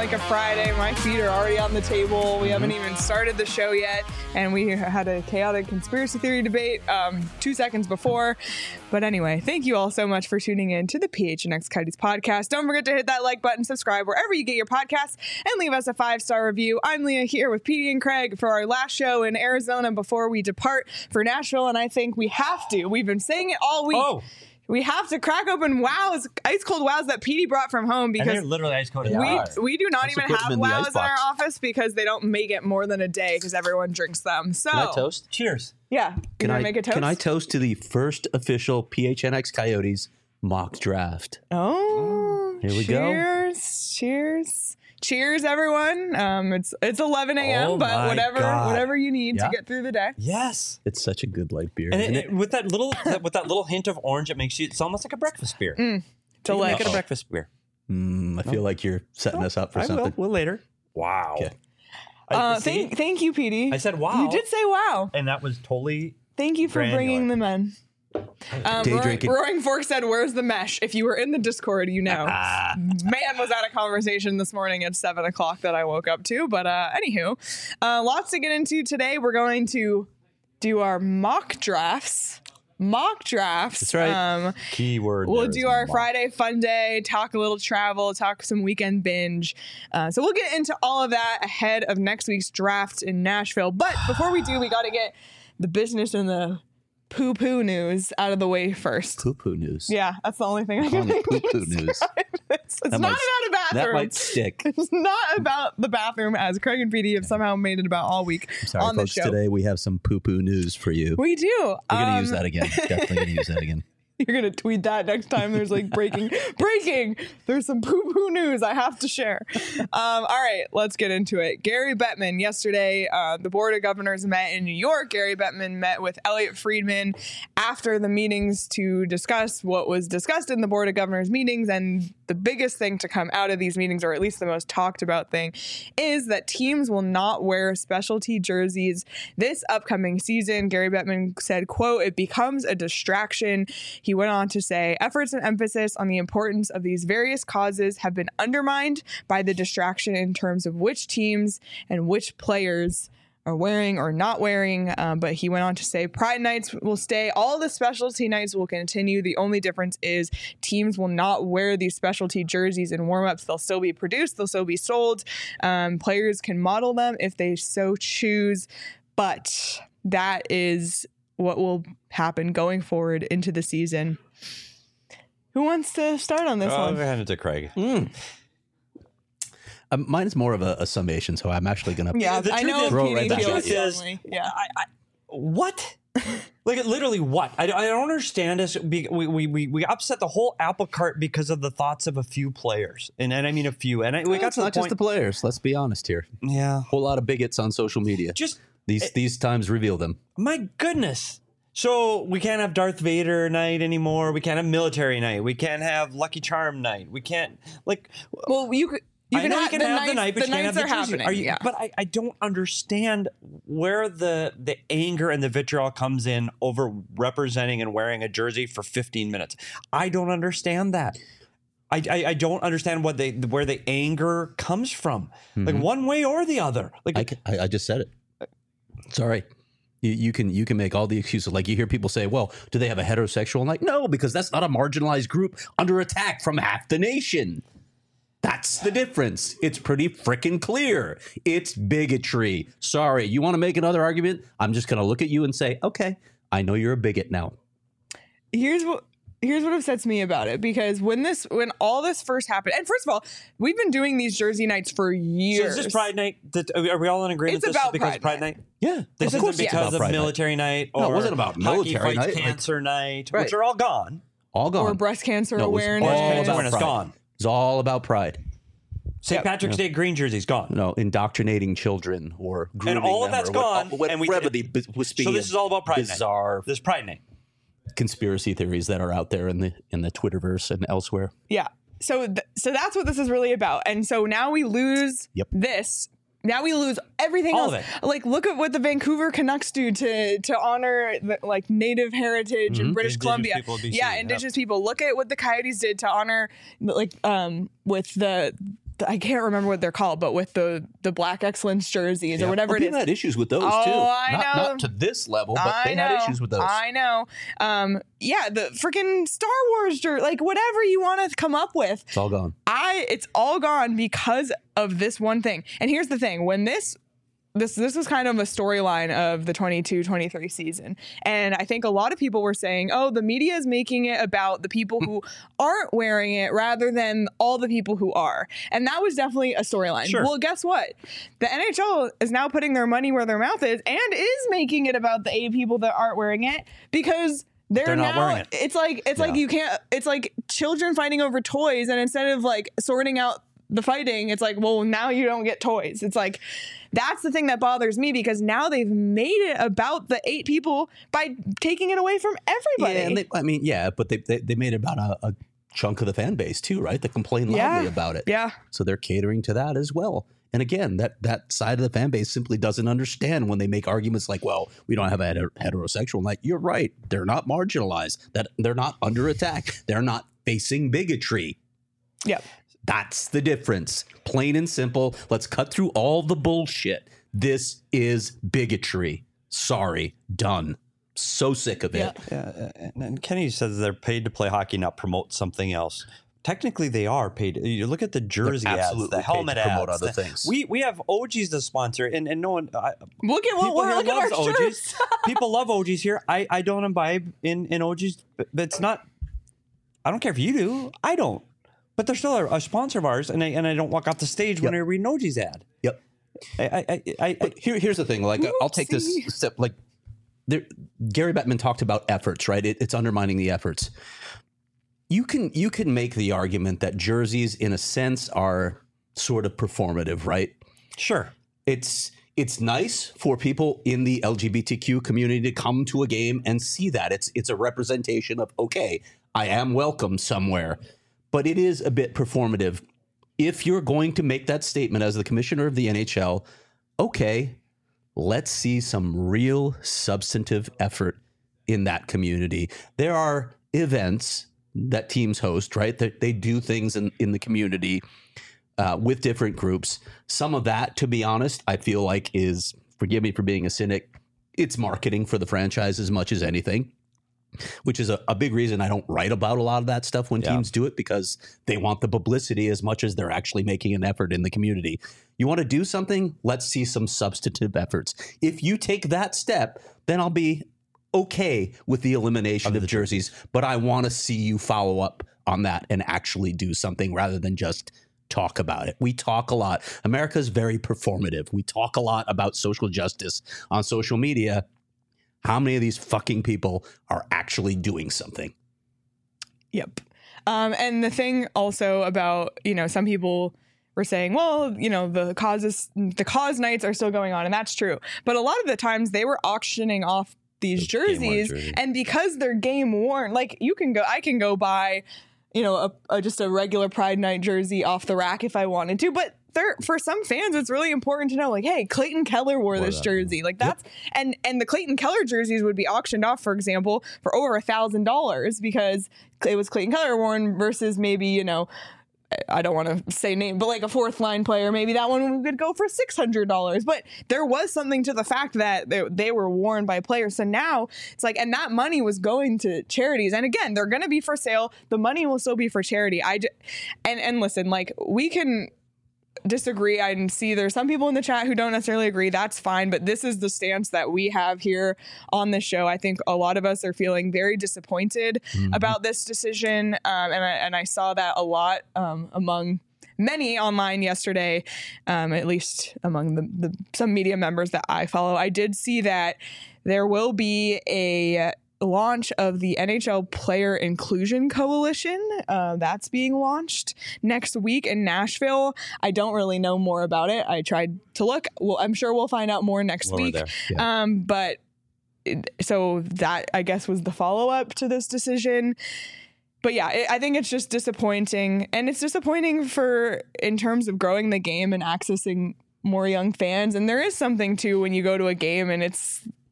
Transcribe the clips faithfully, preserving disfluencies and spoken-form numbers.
like a Friday. My feet are already on the table. We mm-hmm. haven't even started the show yet. And we had a chaotic conspiracy theory debate um, two seconds before. But anyway, thank you all so much for tuning in to the P H N X Coyotes podcast. Don't forget to hit that like button, subscribe wherever you get your podcasts, and leave us a five-star review. I'm Leah here with Petey and Craig for our last show in Arizona before we depart for Nashville. And I think we have to. We've been saying it all week. Oh. We have to crack open wows, ice cold wows that Petey brought from home because and they're literally ice cold. We we do not Let's even put them have in the wows ice in our box. office because they don't make it more than a day because everyone drinks them. So Can I toast? Cheers. Yeah, Can you I make a toast? Can I toast to the first official P H N X Coyotes mock draft? Oh, Here we go. Cheers! Cheers! Cheers, everyone. Um, it's it's eleven a.m. Oh but my whatever God. whatever you need Yeah. to get through the day. Yes. It's such a good light beer, And isn't it, it? it- with that little that- with that little hint of orange, it makes you. It's almost like a breakfast beer. You can Delish. make it a breakfast beer. Mm, I feel like you're setting us up for I something. will. We'll later. Wow. Okay. I, Uh, see? thank thank you, Petey. I said wow. You did say wow. and that was totally. Thank you for Granular. bringing them in. Um, Day Roaring, drinking. Roaring Fork said, "Where's the mesh?" If you were in the Discord, you know. Man, was that a conversation this morning at seven o'clock that I woke up to. But uh, anywho, uh, lots to get into today. We're going to do our mock drafts. Mock drafts. That's right. Um, Keyword. We'll there do is our mock. Friday fun day, talk a little travel, talk some weekend binge. Uh, so we'll get into all of that ahead of next week's draft in Nashville. But before we do, we got to get the business and the poo-poo news out of the way first. Poo-poo news. Yeah, that's the only thing I can On the think to poo-poo news. describe. It's, it's That not might- about a bathroom. That might stick. It's not about the bathroom, as Craig and Petey have somehow made it about all week Sorry, on the folks. show. Today we have some poo-poo news for you. We do. We're gonna Um, use that again. Definitely gonna use that again. You're going to tweet that next time there's like breaking, breaking. There's some poo poo news I have to share. Um, all right, let's get into it. Gary Bettman, yesterday, uh, the Board of Governors met in New York. Gary Bettman met with Elliot Friedman after the meetings to discuss what was discussed in the Board of Governors meetings. And the biggest thing to come out of these meetings, or at least the most talked about thing, is that teams will not wear specialty jerseys this upcoming season. Gary Bettman said, quote, "It becomes a distraction." He went on to say, "Efforts and emphasis on the importance of these various causes have been undermined by the distraction in terms of which teams and which players are wearing or not wearing." Um, but he went on to say, "Pride nights will stay. All the specialty nights will continue. The only difference is teams will not wear these specialty jerseys in warmups. They'll still be produced. They'll still be sold. Um, players can model them if they so choose. But that is what will happen going forward into the season." Who wants to start on this Oh, I'm one? gonna hand it to Craig. Mm. Um, mine is more of a, a summation, so I'm actually gonna. Yeah, The I truth know is- Throw it Petey right back feels at you. is- strongly. Yeah. I, I, what? Like literally what? I, I don't understand this. We, we we we upset the whole apple cart because of the thoughts of a few players, and, and I mean a few. And I, we got it's to the not just point. the players. Let's be honest here. yeah, Whole lot of bigots on social media. just these these times reveal them. my goodness. So we can't have Darth Vader night anymore. We can't have military night. We can't have Lucky Charm night. We can't like. Well, you could. You I can know have, you can the have nights, the night, but the you can't nights have the are jersey. happening. Are you, yeah. But I, I don't understand where the the anger and the vitriol comes in over representing and wearing a jersey for fifteen minutes. I don't understand that. I, I, I don't understand what they where the anger comes from, like one way or the other. Like I, ca- I, I just said it. Sorry. You, you can you can make all the excuses. Like you hear people say, well, do they have a heterosexual night? No, because that's not a marginalized group under attack from half the nation. That's the difference. It's pretty freaking clear. It's bigotry. Sorry. You want to make another argument? I'm just going to look at you and say, okay, I know you're a bigot now. Here's what. Here's what upsets me about it, because when this, when all this first happened, and first of all, we've been doing these jersey nights for so years. is this Pride Night? That, are we all in agreement? It's this is about because Pride of Pride Night. Night. Yeah. This of course isn't it's because about of Pride Night. military night or No, it wasn't about military Hockey night, Fights like- Cancer night, Right. which are all gone. All gone. or breast cancer No, it was awareness. all Breast cancer about awareness pride. gone. It's all about pride. Saint Yep. Patrick's Day green jerseys gone. No, indoctrinating children or grooming And all of them that's or what- gone, Whatever and we- the b- was So speaking this of is all about Pride Night. bizarre This Pride Night. conspiracy theories that are out there in the in the Twitterverse and elsewhere. Yeah. So, th- so that's what this is really about. And so now we lose Yep. this. Now we lose everything All else. of it. Like, look at what the Vancouver Canucks do to to honor the, like Native heritage in British Indigenous Columbia. people of B C, yeah, yeah. Indigenous people. Look at what the Coyotes did to honor, like, um, with the I can't remember what they're called, but with the the Black Excellence jerseys Yeah. or whatever Well, it people is. had issues with those Oh, too. I not, know. not to this level, but I they know, had issues with those. I know. Um, yeah, the freaking Star Wars jersey, like whatever you want to come up with. It's all gone. I it's all gone because of this one thing. And here's the thing, when this this this was kind of a storyline of the twenty-two twenty-three season. And I think a lot of people were saying, "Oh, the media is making it about the people who aren't wearing it rather than all the people who are." And that was definitely a storyline. Sure. Well, guess what? The N H L is now putting their money where their mouth is and is making it about the eight people that aren't wearing it because They're, They're not now, wearing it. It's like it's like Yeah. you can't. It's like children fighting over toys, and instead of like sorting out the fighting, it's like, well, now you don't get toys. It's like that's the thing that bothers me because now they've made it about the eight people by taking it away from everybody. Yeah, and they, I mean, yeah, but they they, they made it about a, a chunk of the fan base too, right? That complain loudly Yeah. about it. Yeah. So they're catering to that as well. And again, that that side of the fan base simply doesn't understand when they make arguments like, "Well, we don't have a heter- heterosexual night." You're right; they're not marginalized. That they're not under attack. They're not facing bigotry. Yep. That's the difference. Plain and simple. Let's cut through all the bullshit. This is bigotry. Sorry, done. So sick of it. Yeah, and, and Kenny says they're paid to play hockey, not promote something else. Technically, they are paid. You look at the jersey ads, absolutely the paid to helmet promote ads. other the- things. We we have O G's the sponsor, and, and no one. I, Look at what people we're here look at loves our O G's. shirts. People love O G's here. I, I don't imbibe in, in O G's, but, but it's not. I don't care if you do. I don't. But they're still a, a sponsor of ours, and I and I don't walk off the stage when Yep. I read an O G's ad. Yep. I I I, I, But here, here's the thing. Like, I'll take this Oopsie. step. Like, there, Gary Bettman talked about efforts, right? It, it's undermining the efforts. You can you can make the argument that jerseys, in a sense, are sort of performative, right? sure. It's it's nice for people in the L G B T Q community to come to a game and see that. It's it's a representation of, okay, I am welcome somewhere. But it is a bit performative. If you're going to make that statement as the commissioner of the N H L, okay, let's see some real substantive effort in that community. There are events that teams host, right? That they do things in, in the community uh, with different groups. Some of that, to be honest, I feel like is, forgive me for being a cynic, it's marketing for the franchise as much as anything, which is a, a big reason I don't write about a lot of that stuff when Yeah. teams do it, because they want the publicity as much as they're actually making an effort in the community. You want to do something? Let's see some substantive efforts. If you take that step, then I'll be okay with the elimination of, jerseys, but I want to see you follow up on that and actually do something rather than just talk about it. We talk a lot. America's very performative. We talk a lot about social justice on social media. How many of these fucking people are actually doing something? Yep. Um, and the thing also about, you know, some people were saying, well, you know, the causes, the cause nights are still going on. And that's true. But a lot of the times they were auctioning off these Game-worn jerseys. jerseys. And because they're game worn, like you can go, I can go buy, you know, a, a, just a regular Pride Night jersey off the rack if I wanted to. But there, for some fans, it's really important to know, like, hey, Clayton Keller wore this that, jersey. Like that's, and, and the Clayton Keller jerseys would be auctioned off, for example, for over a thousand dollars because it was Clayton Keller worn versus maybe, you know, I don't want to say name, but like a fourth line player, maybe that one would go for six hundred dollars. But there was something to the fact that they, they were worn by players. So now it's like, and that money was going to charities. And again, they're going to be for sale. The money will still be for charity. I just, and, and listen, like we can disagree. I can see there's some people in the chat who don't necessarily agree. That's fine. But this is the stance that we have here on the show. I think a lot of us are feeling very disappointed Mm-hmm. about this decision. Um, and, I, and I saw that a lot um, among many online yesterday, um, at least among the, the some media members that I follow. I did see that there will be a launch of the N H L Player Inclusion Coalition. Uh, that's being launched next week in Nashville. I don't really know more about it. I tried to look. Well, I'm sure we'll find out more next Well, we're week. there. Yeah. Um, but it, so that I guess was the follow up to this decision. But yeah, it, I think it's just disappointing, and it's disappointing for in terms of growing the game and accessing more young fans. And there is something too when you go to a game and it's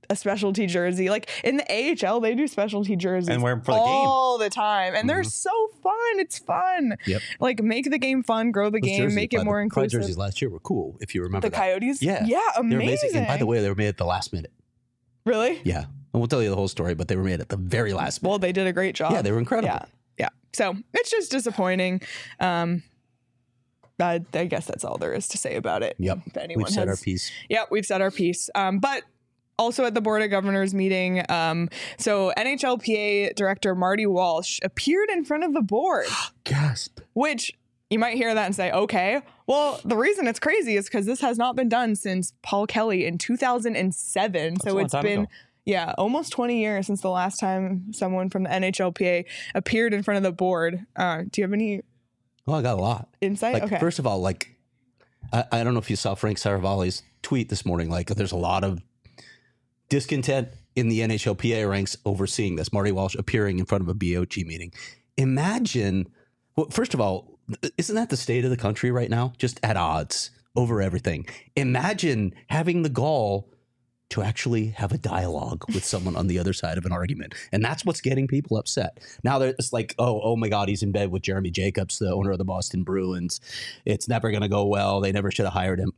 a specialty jersey. Like in the A H L, they do specialty jerseys And wear 'em for the game. all the time. And they're so fun. It's fun. Yep. Like make the game fun, grow the Those game, jerseys, make it by more the- Pride inclusive. jerseys last year were cool, if you remember The that. Coyotes? Yeah. Yeah, They were amazing. And by the way, they were made at the last minute. Really? Yeah. I won't tell you the whole story, but they were made at the very last minute. Well, they did a great job. Yeah, they were incredible. Yeah. Yeah. So it's just disappointing. Um, I, I guess that's all there is to say about it. Yep. If anyone We've said has, our piece. Yep, we've said our piece. Um, but also at the Board of Governors meeting, um, so N H L P A Director Marty Walsh appeared in front of the board, Gasp. which you might hear that and say, okay. Well, the reason it's crazy is because this has not been done since Paul Kelly in two thousand seven. That's a So long it's time been... ago. Yeah, almost twenty years since the last time someone from the N H L P A appeared in front of the board. Uh, do you have any Oh, I got a lot. insight? Like, okay. first of all, like, I, I don't know if you saw Frank Saravalli's tweet this morning. Like, there's a lot of discontent in the N H L P A ranks overseeing this. Marty Walsh appearing in front of a B O G meeting. Imagine, well, first of all, isn't that the state of the country right now? Just at odds over everything. Imagine having the gall to actually have a dialogue with someone on the other side of an argument. And that's what's getting people upset. Now they're it's like, oh, oh my God, he's in bed with Jeremy Jacobs, the owner of the Boston Bruins. It's never going to go well. They never should have hired him.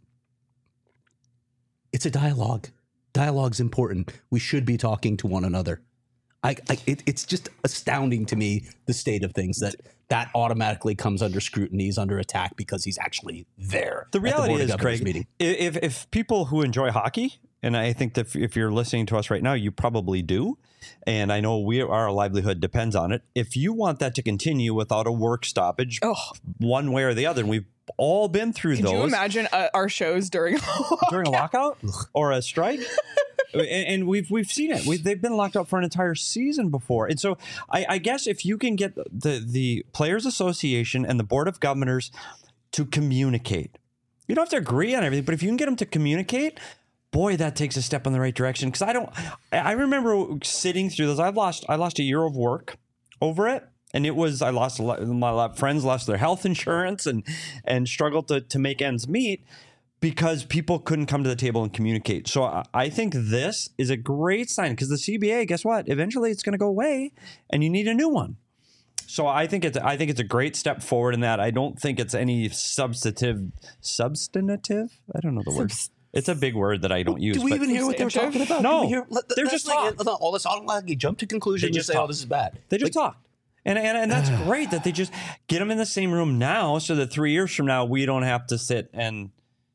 It's a dialogue. Dialogue's important. We should be talking to one another. I, I it, it's just astounding to me, the state of things, that that automatically comes under scrutiny, he's under attack because he's actually there. The at reality Board of is, Governors Craig, meeting. if if people who enjoy hockey, and I think that if, if you're listening to us right now, you probably do, and I know we our livelihood depends on it. If you want that to continue without a work stoppage, Oh. one way or the other, and we've all been through Could those you imagine uh, our shows during during a lockout or a strike. And, and we've we've seen it. We've, they've been locked up for an entire season before. And so I, I guess if you can get the the Players Association and the Board of Governors to communicate, you don't have to agree on everything, but if you can get them to communicate, boy, that takes a step in the right direction. Because I don't, I remember sitting through this. I've lost I lost a year of work over it. And it was, I lost a lot, my friends lost their health insurance and and struggled to to make ends meet, because people couldn't come to the table and communicate. So I, I think this is a great sign, because the C B A, guess what? Eventually it's going to go away and you need a new one. So I think it's I think it's a great step forward in that. I don't think it's any substantive, substantive? I don't know the word. Subs- It's a big word that I don't use. Do we but even hear what they were talking about? No. Did we hear, let- They're that's just like- talk. all this automatically jump to conclusion They and just say, oh, talk. this is bad. They just Like, talked. And, and and that's great that they just get them in the same room now, so that three years from now, we don't have to sit and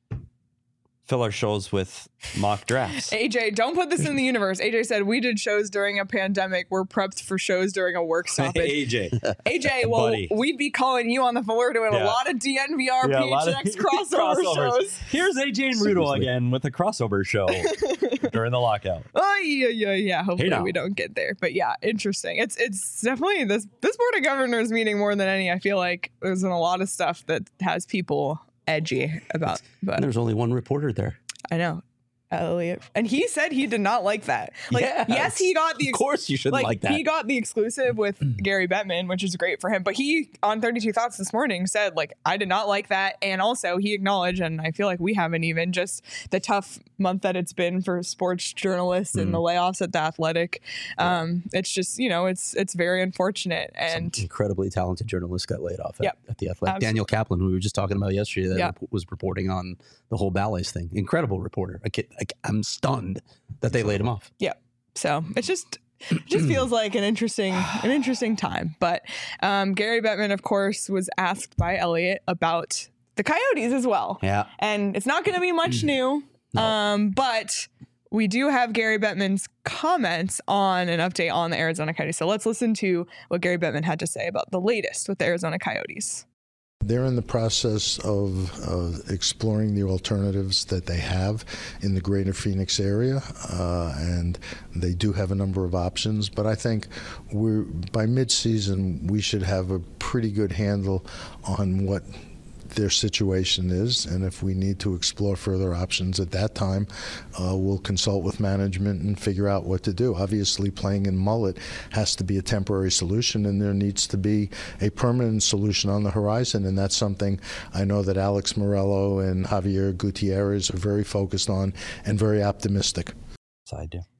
fill our shows with mock drafts. A J, don't put this in the universe. A J said we did shows during a pandemic. We're prepped for shows during a work stoppage. A J. A J, well, Buddy. we'd be calling you on the phone. We're doing Yeah. a lot of D N V R, Yeah, a P lot H of X crossover crossovers. shows. Here's A J and Rudo Seriously. again with a crossover show during the lockout. Oh yeah, yeah, yeah. Hopefully now. we don't get there. But yeah, interesting. It's it's definitely this this Board of Governors meeting more than any. I feel like there's been a lot of stuff that has people edgy about. But There's only one reporter there. I know. Elliot. And he said he did not like that. Like, Yes. yes, he got the Of course you shouldn't like, like that. he got the exclusive with Gary Bettman, which is great for him. But he on thirty-two Thoughts this morning said, like, I did not like that. And also he acknowledged, and I feel like we haven't even, just the tough month that it's been for sports journalists and the layoffs at the Athletic. Um, it's just, you know, it's it's very unfortunate. And Incredibly talented journalist got laid off at, Yep. at the Athletic. Absolutely. Daniel Kaplan, who we were just talking about yesterday, that Yep. rep- was reporting on the whole Ballets thing. Incredible reporter. I, can't- I, I'm stunned that they laid him off. yeah, so it's just it just feels like an interesting an interesting time. But um, Gary Bettman, of course, was asked by Elliot about the Coyotes as well. Yeah. And it's not going to be much new, No. um, but we do have Gary Bettman's comments on an update on the Arizona Coyotes. So let's listen to what Gary Bettman had to say about the latest with the Arizona Coyotes. They're in the process of uh, exploring the alternatives that they have in the greater Phoenix area, uh, and they do have a number of options. But I think we're by mid-season we should have a pretty good handle on what their situation is, and if we need to explore further options at that time, uh, we'll consult with management and figure out what to do. Obviously, playing in mullet has to be a temporary solution, and there needs to be a permanent solution on the horizon, and that's something I know that Alex Morello and Javier Gutierrez are very focused on and very optimistic. So I do.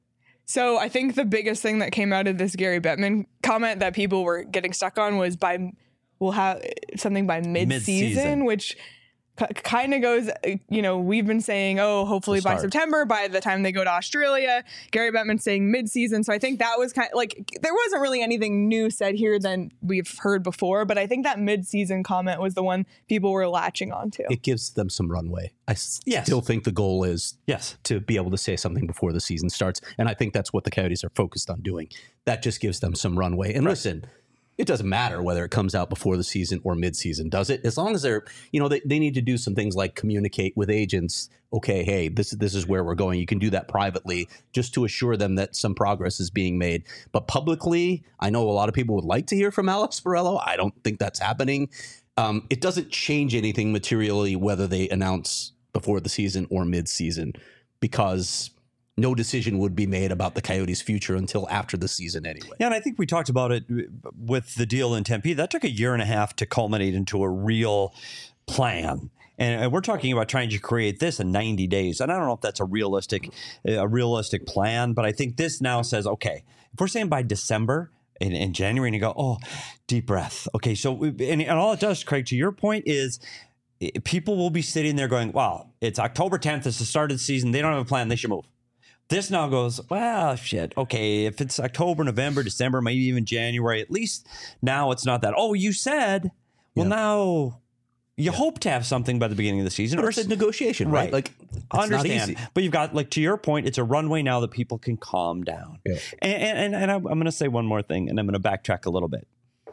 So I think the biggest thing that came out of this Gary Bettman comment that people were getting stuck on was by we'll have something by mid-season, Mid-season. which k- kind of goes, you know, we've been saying, oh, hopefully The by start. September, by the time they go to Australia. Gary Bettman saying mid-season. So I think that was kind of like, there wasn't really anything new said here than we've heard before, but I think that mid-season comment was the one people were latching onto. It gives them some runway. I s- Yes. still think the goal is Yes. to be able to say something before the season starts. And I think that's what the Coyotes are focused on doing. That just gives them some runway. And listen, it doesn't matter whether it comes out before the season or mid-season, does it? As long as they're, you know, they, they need to do some things like communicate with agents. Okay, hey, this, this is where we're going. You can do that privately just to assure them that some progress is being made. But publicly, I know a lot of people would like to hear from Alex Borrello. I don't think that's happening. Um, it doesn't change anything materially whether they announce before the season or mid-season, because no decision would be made about the Coyotes' future until after the season anyway. Yeah, and I think we talked about it with the deal in Tempe. That took a year and a half to culminate into a real plan. And we're talking about trying to create this in ninety days. And I don't know if that's a realistic, a realistic plan, but I think this now says, okay, if we're saying by December in, in January, and you go, oh, deep breath. Okay, so we, and, and all it does, Craig, to your point, is people will be sitting there going, wow, it's October tenth, it's the start of the season. They don't have a plan. They should move. This now goes, well, shit. Okay, if it's October, November, December, maybe even January, at least now it's not that. Oh, you said, well, Yeah. now you hope to have something by the beginning of the season. But Or it's a negotiation, right? Right. Like, it's I understand, not easy. but you've got, like, to your point, it's a runway now that people can calm down. Yeah. And, and, and I'm, I'm going to say one more thing, and I'm going to backtrack a little bit.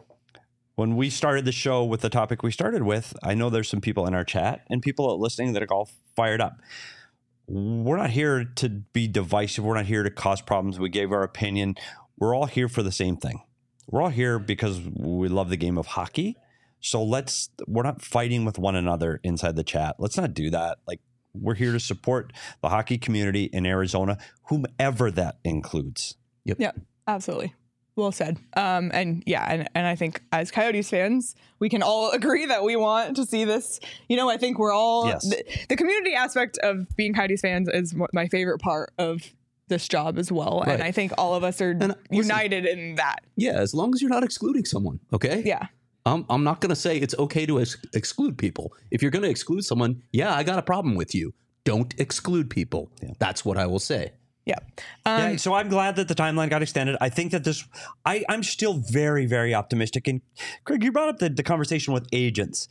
When we started the show with the topic we started with, I know there's some people in our chat and people listening that are all fired up. We're not here to be divisive. We're not here to cause problems. We gave our opinion. We're all here for the same thing. We're all here because we love the game of hockey. So let's, we're not fighting with one another inside the chat. Let's not do that. Like, we're here to support the hockey community in Arizona, whomever that includes. Yeah, absolutely. Well said. Um, and yeah, and, and I think as Coyotes fans, we can all agree that we want to see this. You know, I think we're all, Yes. the, the community aspect of being Coyotes fans is mo- my favorite part of this job as well. And Right. I think all of us are listen- united in that. Yeah, as long as you're not excluding someone, okay? Yeah. Um, I'm not going to say it's okay to ex- exclude people. If you're going to exclude someone, yeah, I got a problem with you. Don't exclude people. That's what I will say. Yeah. Um, Yeah, so I'm glad that the timeline got extended. I think that this, I, I'm still very, very optimistic. And Craig, you brought up the, the conversation with agents.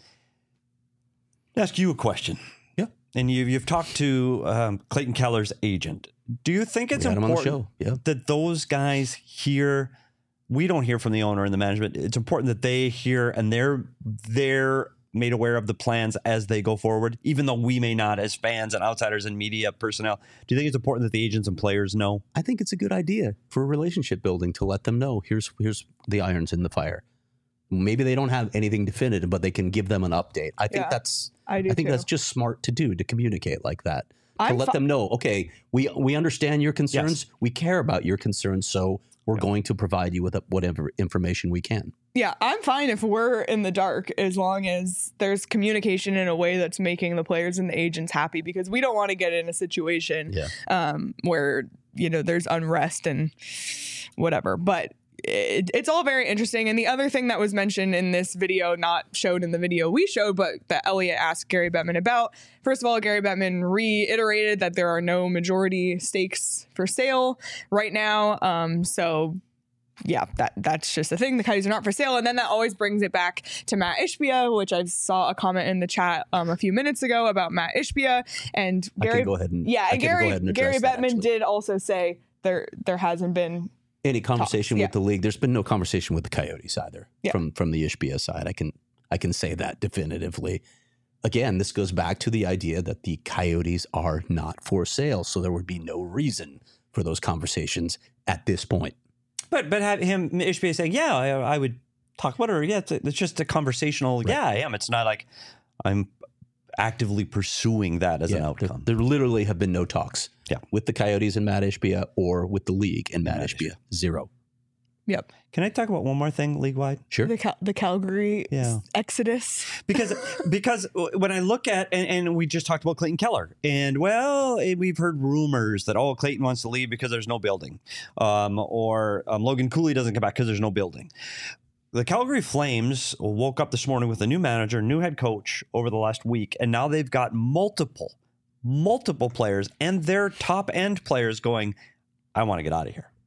I'll ask you a question. Yeah. And you, you've talked to um, Clayton Keller's agent. Do you think it's We had him on the important show, yeah. that those guys hear? We don't hear from the owner and the management. It's important that they hear and they're they're made aware of the plans as they go forward, even though we may not as fans and outsiders and media personnel. Do you think it's important that the agents and players know? I think it's a good idea for relationship building to let them know here's here's the irons in the fire. Maybe they don't have anything definitive, but they can give them an update. I think Yeah, that's I do think too. that's just smart to do, to communicate like that. To I'm let fi- them know, okay, we we understand your concerns, Yes. we care about your concerns, so we're going to provide you with whatever information we can. Yeah, I'm fine if we're in the dark as long as there's communication in a way that's making the players and the agents happy, because we don't want to get in a situation Yeah. um, where, you know, there's unrest and whatever. But it, it's all very interesting. And the other thing that was mentioned in this video, not showed in the video we showed, but that Elliot asked Gary Bettman about, first of all, Gary Bettman reiterated that there are no majority stakes for sale right now. Um, so yeah, that that's just a thing. The Coyotes are not for sale. And then that always brings it back to Matt Ishbia, which I saw a comment in the chat um, a few minutes ago about Matt Ishbia. And I Gary, can go ahead and yeah, I and can Gary, go ahead and Gary address that, Bettman actually. did also say there there hasn't been Any conversation Talks, with the league? There's been no conversation with the Coyotes either Yeah. from from the Ishbia side. I can I can say that definitively. Again, this goes back to the idea that the Coyotes are not for sale, so there would be no reason for those conversations at this point. But but have him Ishbia saying, yeah, I, I would talk about it. Or, yeah, it's, a, it's just a conversational. Yeah, I am. It's not like I'm actively pursuing that as an Yeah, there, outcome. there literally have been no talks Yeah. with the Coyotes and Matt Ishbia or with the league and Matt, Matt Ishbia. Zero. Yep. Can I talk about one more thing league wide? Sure. The Cal- the Calgary Yeah. exodus. Because because when I look at and, and we just talked about Clayton Keller, and well, eh, we've heard rumors that oh Clayton wants to leave because there's no building, um, or um, Logan Cooley doesn't come back because there's no building. The Calgary Flames woke up this morning with a new manager, new head coach over the last week, and now they've got multiple, multiple players and their top end players going, I want to get out of here.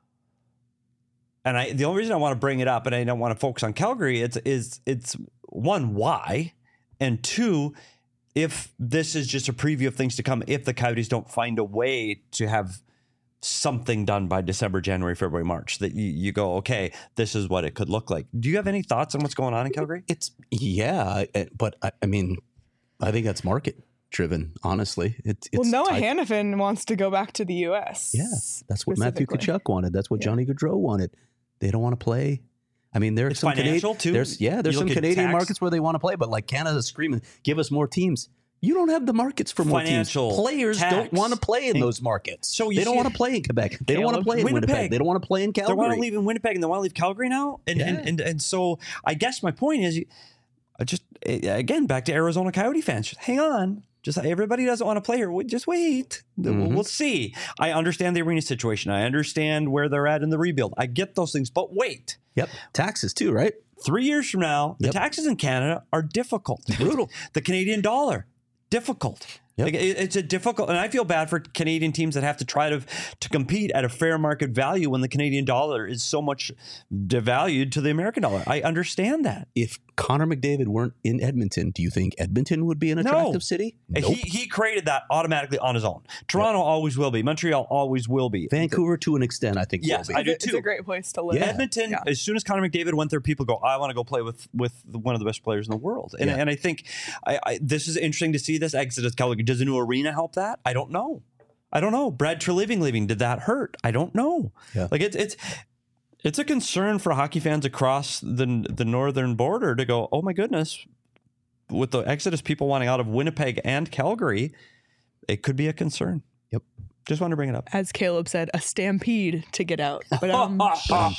And I, the only reason I want to bring it up, and I don't want to focus on Calgary, it's is it's one, why, and two, if this is just a preview of things to come, if the Coyotes don't find a way to have something done by December, January, February, March, that you, you go, okay, this is what it could look like. Do you have any thoughts on what's going on in Calgary? It's yeah, I- but I, I mean, I think that's market driven. Honestly, it's, it's Well, Noah tied- Hannafin wants to go back to the U S. Yeah, that's what Matthew specifically. Tkachuk wanted. That's what Johnny Gaudreau wanted. They don't want to play. I mean, there's It's some financial, Canadi- too. There's yeah, there's You some look at Canadian tax. markets where they want to play, but like Canada's screaming, "Give us more teams." You don't have the markets for more Financial, teams. Players tax, don't want to play in and- those markets. So you they don't see- want to play in Quebec. They don't want to Caleb, play in Winnipeg. Winnipeg. They don't want to play in They Calgary. want to leave in Winnipeg and they want to leave Calgary now. And, Yeah. and, and, and so I guess my point is, you- I just, eh, again, back to Arizona Coyote fans, just hang on. Just everybody doesn't want to play here. We- Just wait. We'll, Mhm. we'll see. I understand the arena situation. I understand where they're at in the rebuild. I get those things, but wait. Yep, taxes too, right? Three years from now, the Yep. taxes in Canada are difficult. Brutal. The Canadian dollar, difficult. Yep. Like, it- it's a difficult, and I feel bad for Canadian teams that have to try to to compete at a fair market value when the Canadian dollar is so much devalued to the American dollar. I understand that. If Connor McDavid weren't in Edmonton, do you think Edmonton would be an No. attractive city? And He he created that automatically on his own. Toronto always will be. Montreal always will be. Vancouver, to an extent, I think. Yes, will I be. do It's a- too. It's a great place to live. Yeah. Edmonton, Yeah. as soon as Connor McDavid went there, people go, I want to go play with with one of the best players in the world. And, Yeah. and I think I, I, this is interesting to see this exodus. Calgary. Does a new arena help that? I don't know. I don't know. Brad Treliving leaving, did that hurt? I don't know. Yeah. Like it's it's it's a concern for hockey fans across the the northern border to go, oh my goodness, with the exodus, people wanting out of Winnipeg and Calgary, it could be a concern. Yep. Just wanted to bring it up. As Caleb said, a stampede to get out. But um, wow.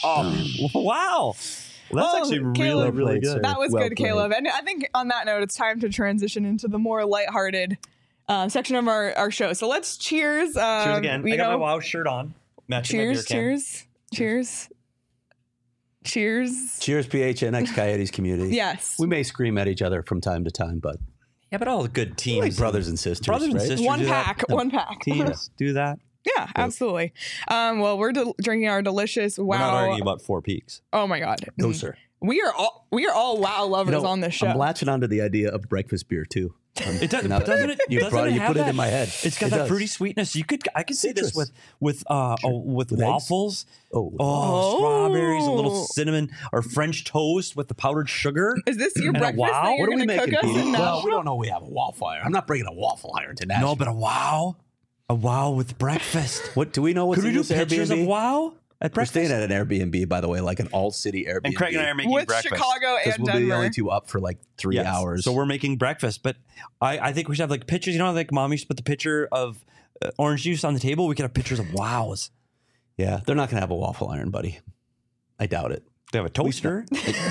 Well, that's Oh, actually really, Caleb. really good. that was Well good, played. Caleb. And I think on that note, it's time to transition into the more lighthearted uh, section of our, our show. So let's cheers. Um, Cheers again. You I got know, my WoW shirt on. Matching my beer cheers, can. cheers, cheers, cheers. Cheers, P H N X Coyotes community. Yes. We may scream at each other from time to time, but Yeah, but all the good teams. like brothers and sisters, Brothers and right? sisters. One do that. pack, one pack. Teams do that. Yeah, absolutely. Um, well, we're del- drinking our delicious We're not wow. arguing about Four Peaks. Oh my god. No, sir. We are all we are all wow lovers You know, on this show. I'm latching onto the idea of breakfast beer too. Um, It does, now that doesn't it? You, doesn't brought, it you have put that? it in my head. It's got It that does. fruity sweetness. You could, I could see this Citrus. with with uh oh, with, With eggs? waffles. Oh, Oh, Oh. strawberries, a little cinnamon, or French toast with the powdered sugar. Is this your And a breakfast wow? that you're what are we going to making, cook us Petey? in Well, we Nashville? don't know. We have a waffle iron. I'm not bringing a waffle iron to Nashville. No, but a wow, a wow with breakfast. what do we know? What's Could we in do this pictures Airbnb? of wow at We're breakfast? staying at an Airbnb, by the way, like an all-city Airbnb. and Craig and I are making With breakfast. Chicago because and we'll be the Denver. only two up for like three Yes. hours. So we're making breakfast, but I, I think we should have like pictures. You know, like mom used to put the picture of uh, orange juice on the table. We could have pictures of wows. yeah, they're not going to have a waffle iron, buddy. I doubt it. They have a toaster.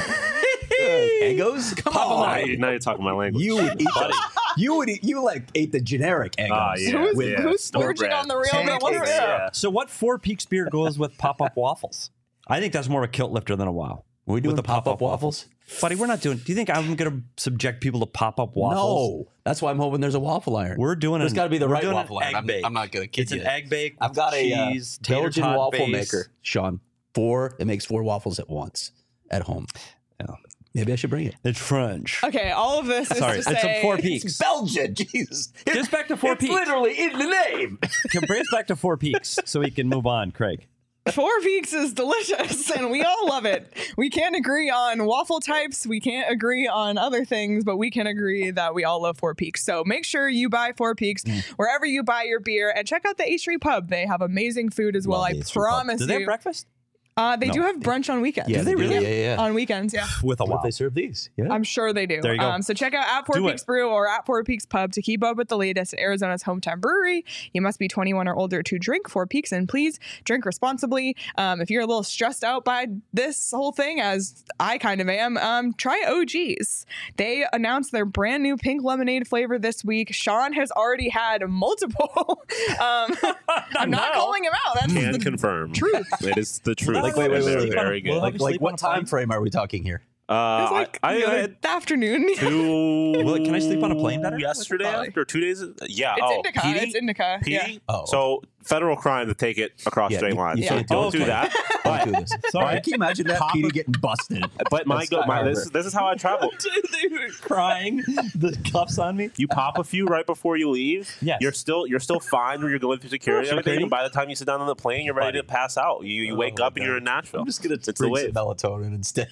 Eggos? Come Now on. you- now you're talking my language. You would eat the, you would eat, you like ate the generic Eggos. Ah, yeah. Who's, yeah. who's Store splurging brand. on the real Pancakes. deal? Pancakes, yeah. So what Four Peaks beer goes with pop-up waffles? I think that's more of a kilt lifter than a wow. Are we doing With the pop-up pop-up waffles? Buddy, we're not doing. Do you think I'm going to subject people to pop-up waffles? No. That's why I'm hoping there's a waffle iron. We're doing There's an- got to be the we're right doing an waffle iron. egg I'm, bake. I'm not going to kid It's you. an egg bake. I've got a uh, cheese, tater Belgian tot waffle base. maker, Sean. Four. It makes four waffles at once at home. Yeah. Maybe I should bring it. It's French. Okay, all of this is Sorry, to it's say a Four Peaks. Belgian. Jesus. Just back to Four It's Peaks. literally in the name. Can bring us back to Four Peaks so we can move on, Craig. Four Peaks is delicious and we all love it. We can't agree on waffle types, we can't agree on other things, but we can agree that we all love Four Peaks. So make sure you buy Four Peaks wherever you buy your beer and check out the A Street Pub. They have amazing food as well. Love I the Eastern Pub. promise Do they you. have breakfast? Uh, they No. do have brunch on weekends. Yeah, they really? Yeah, yeah. On weekends, yeah. With a What wow. if they serve these? Yeah. I'm sure they do. There you go. Um, so check out at Four Do Peaks it. Brew or at Four Peaks Pub to keep up with the latest at Arizona's hometown brewery. You must be twenty-one or older to drink Four Peaks, and please drink responsibly. Um, if you're a little stressed out by this whole thing, as I kind of am, um, try O G's. They announced their brand new pink lemonade flavor this week. Sean has already had multiple. um, I'm not No. calling him out. That's Can the confirm. truth. It is the truth. Like, wait, wait, And wait, they're wait, wait. very good. Well, like, like sleep what on a plane? time frame are we talking here? Uh, It's like I, I the other had afternoon. two. Well, can I sleep on a plane better? Yesterday Probably. after two days. Yeah. It's oh, indica. P D? It's indica. P D? Yeah. Oh, So federal crime to take it across Yeah, state you- lines. you So can't don't do do it. that. Don't But do this. Sorry. Can you imagine that? Pop Petey a- getting busted. but my That's go not my how it this works. this is how I travel. They were crying. The cuffs on me. You pop a few right before you leave. Yes. You're still you're still fine when you're going through security and everything. Security. And by the time you sit down on the plane, you're ready to pass out. You you Oh wake my up and God. you're in Nashville. I'm just gonna It's the drink some wave. melatonin instead.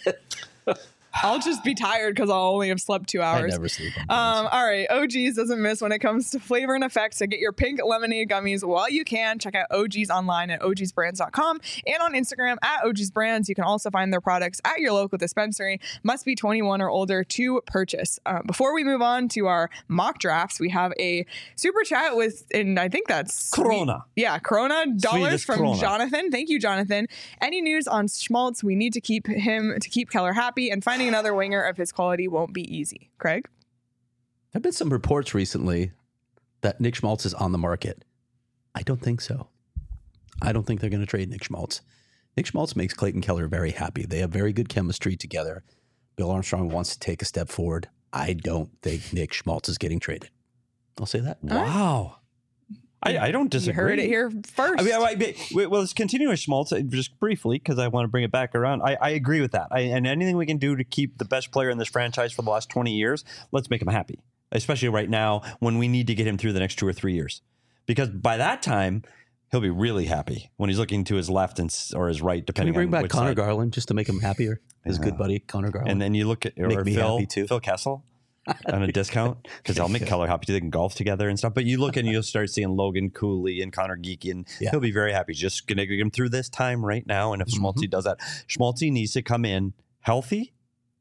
I'll just be tired because I'll only have slept two I hours. never sleep on Um, planes. all right, O G's doesn't miss when it comes to flavor and effects. So get your pink lemonade gummies while you can. Check out O G's online at O Gs brands dot com and on Instagram at O Gs brands. You can also find their products at your local dispensary. Must be twenty-one or older to purchase. Uh, before we move on to our mock drafts, we have a super chat with, and I think that's Corona. Yeah, Corona dollars Swedish from Corona. Jonathan. Thank you, Jonathan. Any news on Schmaltz? We need to keep him to keep Keller happy, and finding another winger of his quality won't be easy. Craig? There have been some reports recently that Nick Schmaltz is on the market. I don't think so. I don't think they're going to trade Nick Schmaltz. Nick Schmaltz makes Clayton Keller very happy. They have very good chemistry together. Bill Armstrong wants to take a step forward. I don't think Nick Schmaltz is getting traded. I'll say that. Wow. I, I don't disagree. You heard it here first. I mean, I, I, wait, well, let's continue with Schmaltz uh, just briefly because I want to bring it back around. I, I agree with that. I, and anything we can do to keep the best player in this franchise for the last twenty years, let's make him happy, especially right now when we need to get him through the next two or three years. Because by that time, he'll be really happy when he's looking to his left and s- or his right, Can we depending bring on back which Connor side. Garland just to make him happier? His Yeah. good buddy, Connor Garland. And then you look at or Make me Phil, happy, too. Phil Kessel on a discount because I'll make Keller happy too. They can golf together and stuff. But you look and you'll start seeing Logan Cooley and Connor Geeky, and Yeah. he'll be very happy. Just gonna get him through this time right now. And if Mm-hmm. Schmaltzy does that, Schmaltzy needs to come in healthy,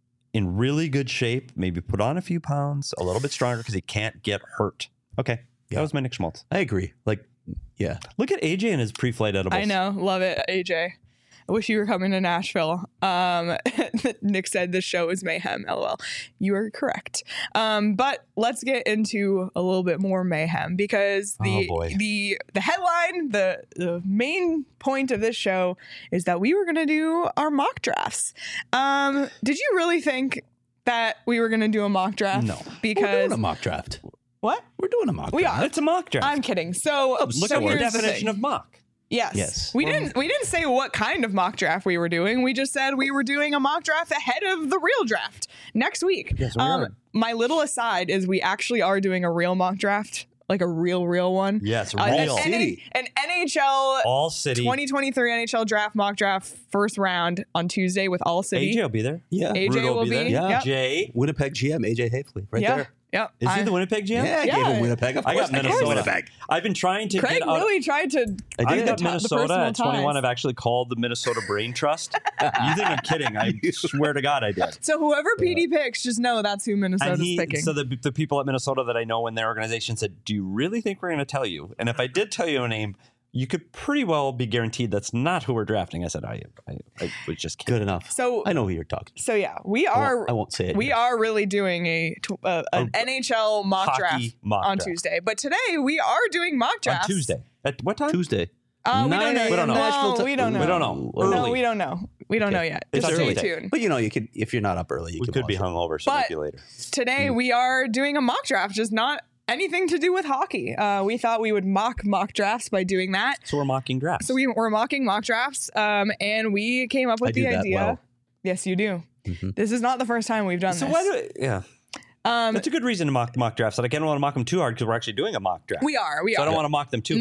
in really good shape, maybe put on a few pounds, a little bit stronger because he can't get hurt. Okay, Yeah. that was my Nick Schmaltz. I agree. Like, yeah. Look at A J and his pre-flight edibles. I know. Love it, A J. I wish you were coming to Nashville. Um, Nick said the show is mayhem. LOL. You are correct. Um, but let's get into a little bit more mayhem because the Oh, boy. the the headline, the the main point of this show is that we were going to do our mock drafts. Um, did you really think that we were going to do a mock draft? No. We're Because doing a mock draft. what? We're doing a mock We draft. are. It's a mock draft. I'm kidding. So Look so at the here's the definition thing. of mock. Yes. Yes. We didn't we didn't say what kind of mock draft we were doing. We just said we were doing a mock draft ahead of the real draft next week. Yes, we are. My little aside is we actually are doing a real mock draft, like a real real one. Yes, Uh, an, real. N- an N H L All City. twenty twenty-three N H L draft mock draft first round on Tuesday with All City. A J will be there. Yeah. A J Rudo will be. there. Yeah. Yep. Jay. Winnipeg G M, A J Hafley, right yeah. there. Yep. Is he I- the Winnipeg G M? Yeah, I Yeah. gave him Winnipeg. Of I course, got I gave him Minnesota. Winnipeg. I've been trying to Craig get out. really tried to. I I did. got the to- the Minnesota personal at twenty-one. ties. I've actually called the Minnesota Brain Trust. You think I'm kidding? I swear to God, I did. So whoever P D picks, just know that's who Minnesota's And he, picking. so the, the people at Minnesota that I know in their organization said, "Do you really think we're going to tell you?" And if I did tell you a name, you could pretty well be guaranteed that's not who we're drafting. I said, "I, I, I was just kidding." Good enough. So I know who you're talking to. So yeah, we I are. won't, I won't say it. We here. are really doing a tw- uh, an A N H L mock hockey draft mock on draft. Tuesday, but today we are doing mock on drafts Tuesday. At what time? Tuesday. Uh, we don't nine know. a.m. We don't know. No, Nashville ti- we don't know. We don't know. Early. No, we don't know. We don't know Okay. yet. It's Just early. stay tuned. But you know, you could if you're not up early, you We can could be watch it. hungover, so But- maybe later. Today we are doing a mock draft, just not anything to do with hockey. Uh, we thought we would mock mock drafts by doing that. So we're mocking drafts. So we were mocking mock drafts, um, and we came up with I the do that idea. well. Yes, you do. Mhm. This is not the first time we've done So this. why do it? Yeah, um, that's a good reason to mock mock drafts. That I can't want to mock them too hard because we're actually doing a mock draft. we are. We so are. I don't want to mock them too no. hard.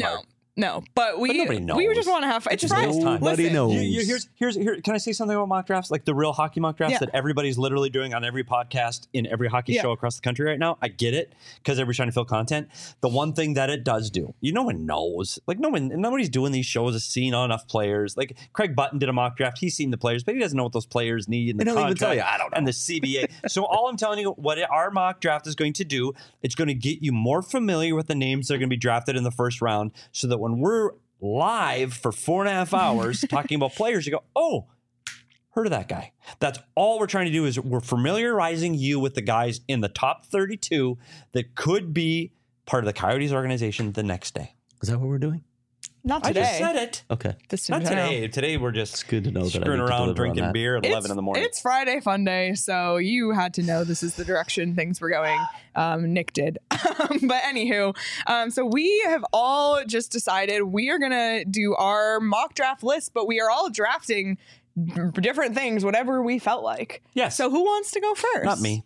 no, but we nobody we knows. just want to have fun. It's just Friday. knows time. Nobody Listen, knows. You, you, here's here's here. Can I say something about mock drafts? Like the real hockey mock drafts Yeah. that everybody's literally doing on every podcast in every hockey Yeah. show across the country right now. I get it because everybody's trying to fill content. The one thing that it does do, you no one knows. Like no one, nobody's doing these shows has seen enough players. Like Craig Button did a mock draft. He's seen the players, but he doesn't know what those players need and the They don't even contract tell you. I don't know. and the C B A. So all I'm telling you, what our mock draft is going to do, it's going to get you more familiar with the names that are going to be drafted in the first round, so that when we're live for four and a half hours talking about players, you go, oh, heard of that guy. That's all we're trying to do is we're familiarizing you with the guys in the top thirty-two that could be part of the Coyotes organization the next day. Is that what we're doing? not I today. just said it. Okay. This Not today. today. Today we're just It's good to know that I screwing need to around deliver on drinking that. beer at It's, eleven in the morning. It's Friday Fun Day, so you had to know this is the direction things were going. Um, Nick did. But anywho, um, so we have all just decided we are going to do our mock draft list, but we are all drafting different things, whatever we felt like. Yes. So who wants to go first? Not me.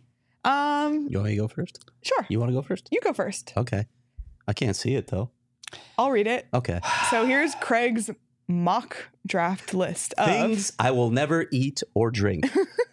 Um, You want me to go first? sure. You want to go first? You go first. Okay. I can't see it though. I'll read it. Okay. So here's Craig's mock draft list of Things I will never eat or drink.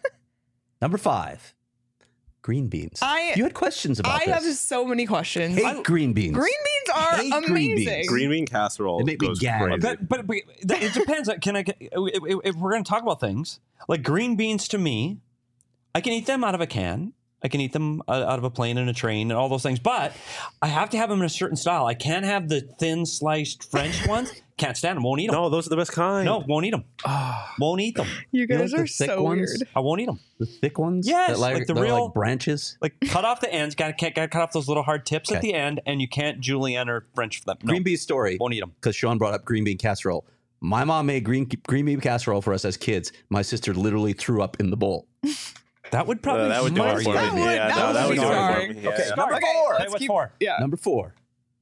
Number five, green beans. I- you had questions about I this. have so many questions. Hate I- green beans. green beans are Hate green amazing. beans. Green bean casserole. They make me goes gag. crazy. But, but, but it depends. Can I? If, if we're going to talk about things like green beans, to me, I can eat them out of a can. I can eat them uh, out of a plane and a train and all those things. But I have to have them in a certain style. I can't have the thin sliced French ones. Can't stand them. Won't eat them. No, those are the best kind. No, won't eat them. won't eat them. You know, guys like the are thick so ones? weird. I won't eat them. The thick ones? Yes, That like, like the they're real- like branches. Like cut off the ends. Got to got to cut off those little hard tips at Okay. the end, and you can't julienne or French them. No, Green bean story. won't eat them. Because Sean brought up green bean casserole. My mom made green green bean casserole for us as kids. My sister literally threw up in the bowl. That would probably Uh, that would do scar it you. for That me. would- Yeah, that no, would that would be do it for scarring. me. Yeah. Okay, Number Okay, four. let's Hey, what's keep- four? Yeah. Number four,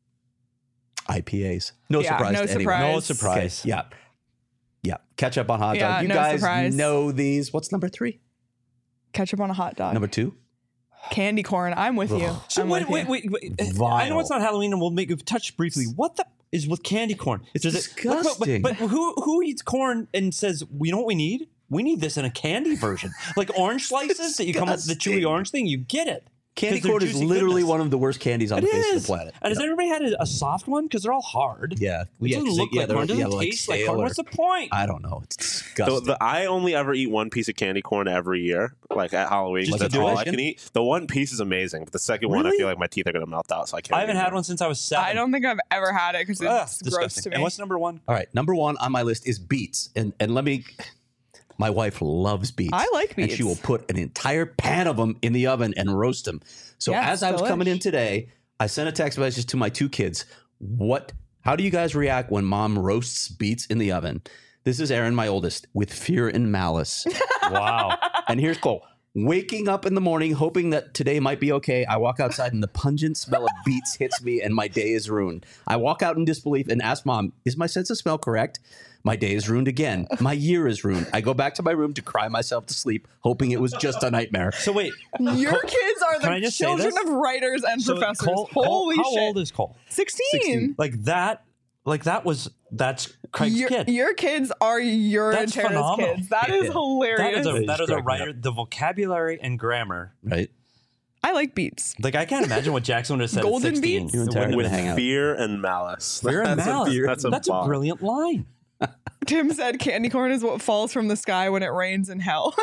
I P As. No Yeah, surprise no to anyone. surprise. No surprise. Okay, yeah. Yeah. Ketchup on hot dog. Yeah, you no guys surprise. know these. What's number three? Ketchup on a hot dog. Number two? Candy corn. I'm with you. So I'm wait, with wait, you. wait, wait. I Vile. know it's not Halloween, and we'll make touch briefly. What the is with candy corn? It's Does disgusting. But, but, but who who eats corn and says, "We know what we need? We need this in a candy version, like orange slices that you come up with the disgusting. chewy orange thing. You get it. Candy 'Cause they're corn is juicy literally goodness. one of the worst candies on It the face is. of the planet. And has Yeah. everybody had a, a soft one? Because they're all hard. Yeah. It Yeah, doesn't 'cause look they- yeah, like they're- corn. It doesn't yeah, like taste like stale corn. or- What's the point? I don't know. It's The, disgusting. the, I only ever eat one piece of candy corn every year, like at Halloween. Just That's to do all it? I can eat. The one piece is amazing, but the second one, I Really? feel like my teeth are gonna melt out, so I can't. I haven't eat had more. one since I was seven. I don't think I've ever had it because it's Ugh, gross disgusting. to me. And what's number one? All right. Number one on my list is beets. And and let me my wife loves beets. I like And she beets. will put an entire pan of them in the oven and roast them. So Yeah, as I was delish. coming in today, I sent a text message to my two kids. What how do you guys react when mom roasts beets in the oven? This is Aaron, my oldest, with fear and malice. Wow. And here's Cole. Waking up in the morning, hoping that today might be okay. I walk outside and the pungent smell of beets hits me and my day is ruined. I walk out in disbelief and ask mom, is my sense of smell correct? My day is ruined again. My year is ruined. I go back to my room to cry myself to sleep, hoping it was just a nightmare. So wait. Your kids are Can I the just say children this? of writers and So professors. Cole, Cole- Holy how shit. old is Cole? sixteen. Like that. Like that was that's Craig's Your, kid. your kids are your That's and Tara's phenomenal. kids. That is Yeah. hilarious. That is a He's that is a cracking writer. up. The vocabulary and grammar. Right? I like beets. Like I can't imagine what Jackson would have said Golden at sixteen. beets? You and It Tara wouldn't would have hang out. Fear and malice. Fear and That's a- malice. That's a, That's a bar. brilliant line. Tim said candy corn is what falls from the sky when it rains in hell.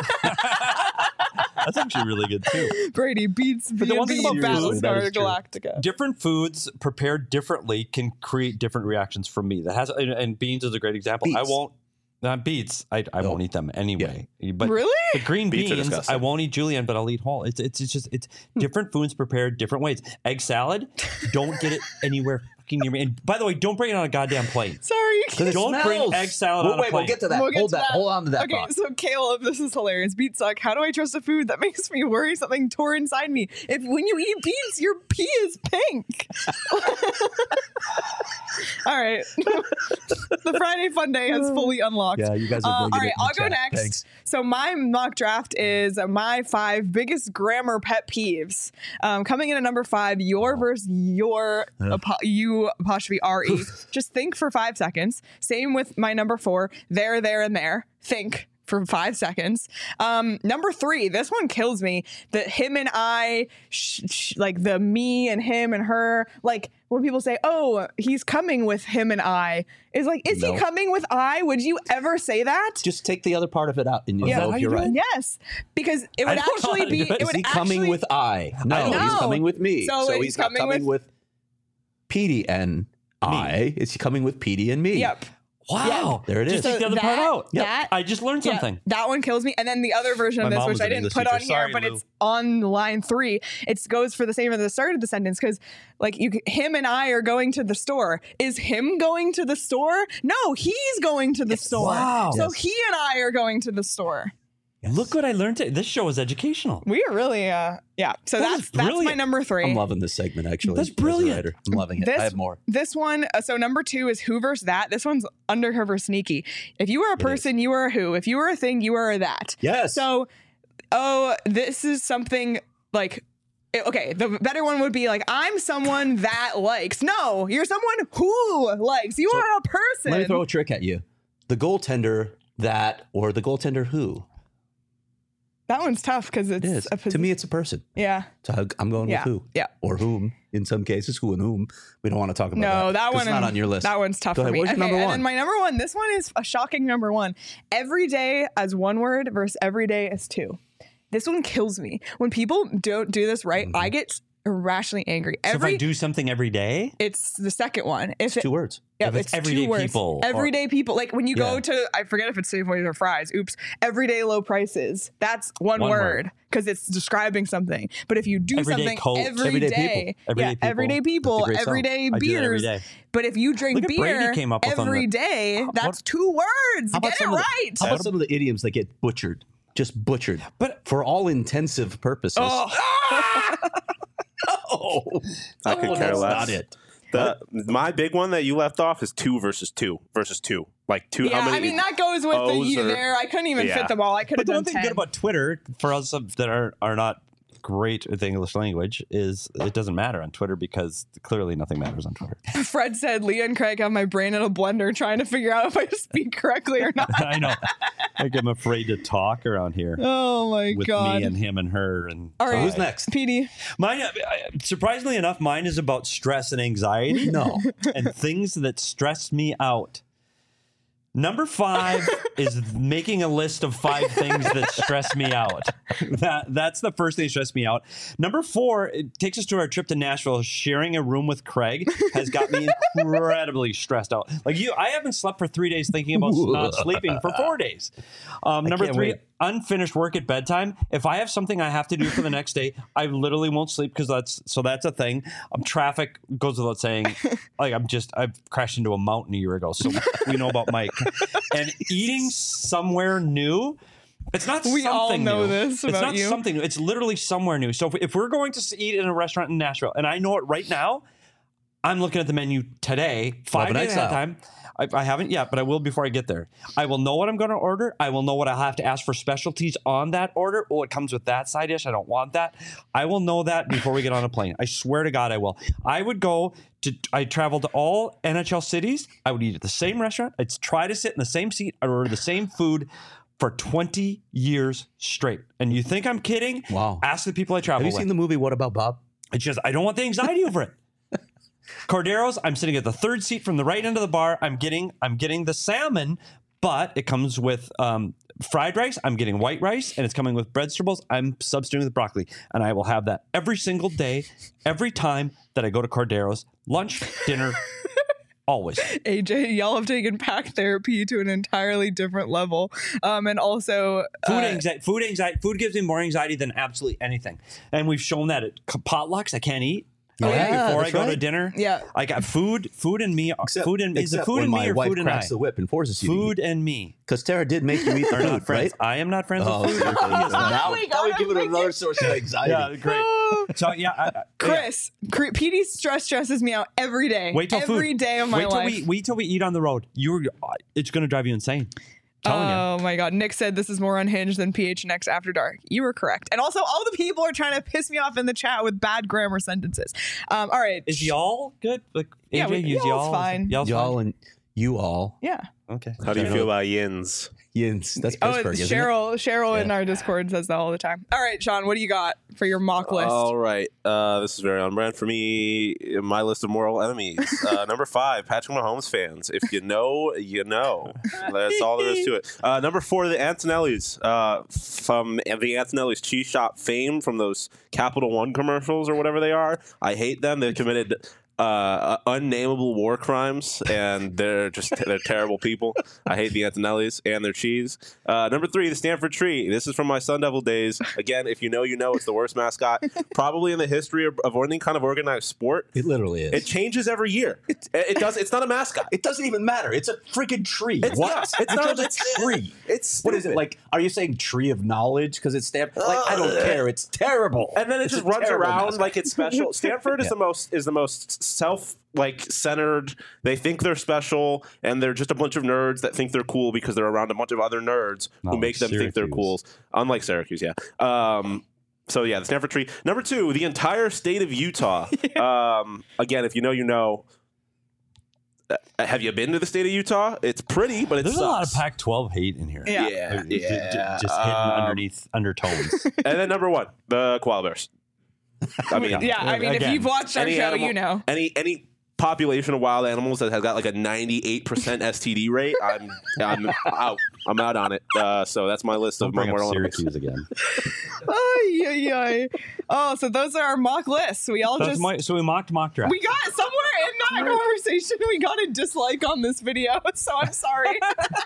That's actually really good too. Brady beats But the one thing about food- that Battlestar is true. Galactica. Different foods prepared differently can create different reactions from me. That has and, and beans is a great example. I Beets. won't. Not beets. I, I No. won't eat them anyway. But Really? the green Beets are beans, disgusting. I won't eat julienne, but I'll eat whole. It's it's, it's just it's different foods prepared different ways. Egg salad, don't get it anywhere fucking near me. And by the way, don't bring it on a goddamn plate. Sorry. It Don't bring smells. egg salad Well, on a wait, we'll plate. get to that. We'll get Hold to that. that. Hold on to that Okay, thought. so Caleb, this is hilarious. Beets suck. How do I trust a food that makes me worry something tore inside me? If when you eat beets, your pee is pink. All right. the Friday Fun Day has fully unlocked. Yeah, you guys are Uh, bringing all it right, in the I'll go chat. next. Thanks. So my mock draft is my five biggest grammar pet peeves. Um, coming in at number five, your versus your apo- you apostrophe R E. Just think for five seconds. Same with my number four, there, there, and there. Think for five seconds. Um, number three, this one kills me. The him and I, sh- sh- like the me and him and her, like when people say, oh, he's coming with him and I, is like, is No. he coming with I? Would you ever say that? Just take the other part of it out, and you Yeah. know How if you you're right. Yes, because it I would don't know actually how to be. do it. It Is would he coming actually, with I? No, No. he's coming with me. So So, he's he's not coming coming with- with, Petey and I. It's coming with Petey and me. Yep. Wow. There it Just is. take the other that, part out. That, I just learned yeah, something. that one kills me. And then the other version My of this, mom which was I an didn't English put teacher. on here, Sorry, but Lou. it's on line three. It goes for the same at the start of the sentence because, like, you, him and I are going to the store. Is him going to the store? No, he's going to the store. Wow. So Yes. he and I are going to the store. Look what I learned today. This show is educational. We are really, uh, yeah. So That that's is that's my brilliant. number three. I'm loving this segment, actually. That's as a brilliant. writer. I'm loving it. This- I have more. This one, uh, so number two is who versus that. This one's under her versus sneaky. If you are a is. person, you are a who. If you are a thing, you are a that. Yes. So, oh, this is something like, eh, okay, the better one would be like, I'm someone that likes. No, you're someone who likes. You So, are a person. let me throw a trick at you. The goaltender that, or the goaltender who. That one's tough because it's It is. a posi- To me, it's a person. Yeah. So I- I'm going Yeah. with who. Yeah. Or whom. In some cases, who and whom. We don't want to talk about that. No, that 'cause one It's not on your list. That one's tough Go for ahead. me. What's your Okay, number and one? then my number one. This one is a shocking number one. Every day as one word versus every day as two. This one kills me. When people don't do this right, I get irrationally angry. So Every if I do something every day, it's the second one. If it, Two words. yeah, if it's two everyday words. people or- Everyday people. Like when you go Yeah. to, I forget if it's Safeways or Fry's. Oops. Everyday low prices. That's one, One word word. because it's describing something. But if you do Everyday something Coke. every Everyday day, people. Everyday yeah, people. everyday people, That's a great song. everyday I do that every beers. day. But if you drink Look at Brady beer came up with on every the- day, that's what- two words. How about Get it some of the- right. How about some of the idioms that get butchered? Just butchered. But- for all intensive purposes. Oh. Oh, I could oh, care that's less. not it. The my big one that you left off is two versus two versus two. Like two. Yeah, how many? I mean that goes with the O's you or- there. I couldn't even Yeah. fit them all. I could But have the done one thing ten. good about Twitter for us that are are not great with the English language is it doesn't matter on Twitter because clearly nothing matters on Twitter. Fred said, Leah and Craig have my brain in a blender trying to figure out if I speak correctly or not. I know. Like I'm afraid to talk around here Oh my with god. me and him and her and All right. Who's next? P D. Mine, uh, surprisingly enough, mine is about stress and anxiety. No. and things that stress me out. Number five is making a list of five things that stress me out. That that's the first thing that stressed me out. Number four, it takes us to our trip to Nashville. Sharing a room with Craig has got me incredibly stressed out. Like you, I haven't slept for three days thinking about not sleeping for four days. Um, number can't three, wait. unfinished work at bedtime. If I have something I have to do for the next day, I literally won't sleep because that's so that's a thing. Um, traffic goes without saying. Like I'm just I've crashed into a mountain a year ago, so we know about Mike. And eating somewhere new. It's not We something all know new. this It's about not you. something new. It's literally somewhere new. So if, if we're going to s- eat in a restaurant in Nashville, and I know it right now, I'm looking at the menu today, five Overnight days ahead of style. time. I, I haven't yet, but I will before I get there. I will know what I'm going to order. I will know what I'll have to ask for specialties on that order. Oh, it comes with that side dish. I don't want that. I will know that before we get on a plane. I swear to God, I will. I would go to, I traveled to all N H L cities. I would eat at the same restaurant. I'd try to sit in the same seat. I'd order the same food for twenty years straight. And you think I'm kidding? Wow. Ask the people I travel Have you with. seen the movie What About Bob? It's just, I don't want the anxiety over it. Corderos, I'm sitting at the third seat from the right end of the bar. I'm getting, I'm getting the salmon, but it comes with um, fried rice. I'm getting white rice, and it's coming with vegetables. I'm substituting with broccoli, and I will have that every single day, every time that I go to Corderos. Lunch, dinner, always. A J, y'all have taken pack therapy to an entirely different level. Um, and also Food uh, anxiety. Food anxiety. Food gives me more anxiety than absolutely anything, and we've shown that at potlucks. I can't eat. Yeah, Like, before I that's go to right. dinner. Yeah. I got food. Food and me. food and is it except food when and my me or wife food and I? cracks the whip and forces you Food to eat. and me Because Tara did make you eat the are food, not friends. right? I am not friends Oh, with food. okay. He is not. now, we now we gotta give it make another it- source of anxiety. Yeah, great. So yeah, I, I, Chris, yeah. P D stress stresses me out every day. Wait till every food. day of my wait till life. we wait till we eat on the road. You're, it's gonna drive you insane. Telling oh you. my God. Nick said this is more unhinged than P H N X After Dark. You were correct. And also, all the people are trying to piss me off in the chat with bad grammar sentences. Um, all right. Is y'all good? Like A J, Yeah, we- use y'all's y'all. fine. Y'all's Y'all fine? and you all. Yeah. Okay. How do you feel about yins? Yins. That's Oh, Pittsburgh, it's isn't Cheryl. Cheryl Yeah. in our Discord says that all the time. All right, Sean, what do you got for your mock list? All right. Uh, this is very on brand for me. My list of moral enemies. Uh, number five, Patrick Mahomes fans. If you know, you know. That's all there is to it. Uh, number four, the Antonellis. Uh, from the Antonellis cheese shop fame from those Capital One commercials or whatever they are. I hate them. They've committed uh, unnameable war crimes, and they're just they're terrible people. I hate the Antonellis and their cheese. Uh, number three, the Stanford Tree. This is from my Sun Devil days. Again, if you know, you know. It's the worst mascot probably in the history of, of any kind of organized sport. it? It literally is. It changes every year. It, it does. It's not a mascot. It doesn't even matter. It's a freaking tree. It's what? not- it's Who not- chose a tree. It's What is it stupid. like? Are you saying tree of knowledge because it's Stanford? Like I don't care. It's terrible. And then it It's just a runs terrible around mascot. like it's special. Stanford is Yeah. the most is the most self like centered. They think they're special, and they're just a bunch of nerds that think they're cool because they're around a bunch of other nerds Not who like make them think they're Syracuse. cool. Unlike Syracuse, yeah. Um, so yeah, the Stanford Tree. Number two, the entire state of Utah. um, again, if you know, you know. Uh, have you been to the state of Utah? It's pretty, but it There's sucks. a lot of Pac twelve hate in here. Yeah. Yeah, J- j- yeah. Just hidden Um, underneath undertones. And then number one, the koala bears. I mean, yeah, I mean, if Again, you've watched our any show, animal- you know. any any population of wild animals that has got like a ninety-eight percent S T D rate, I'm I'm out. I'm out on it. Uh, so that's my list Don't of my bring up moral enemies. Syracuse again. Ay, ay, ay. Oh, so those are our mock lists. We all That's just my, so we mocked mock draft. we got somewhere in that conversation. We got a dislike on this video, so I'm sorry.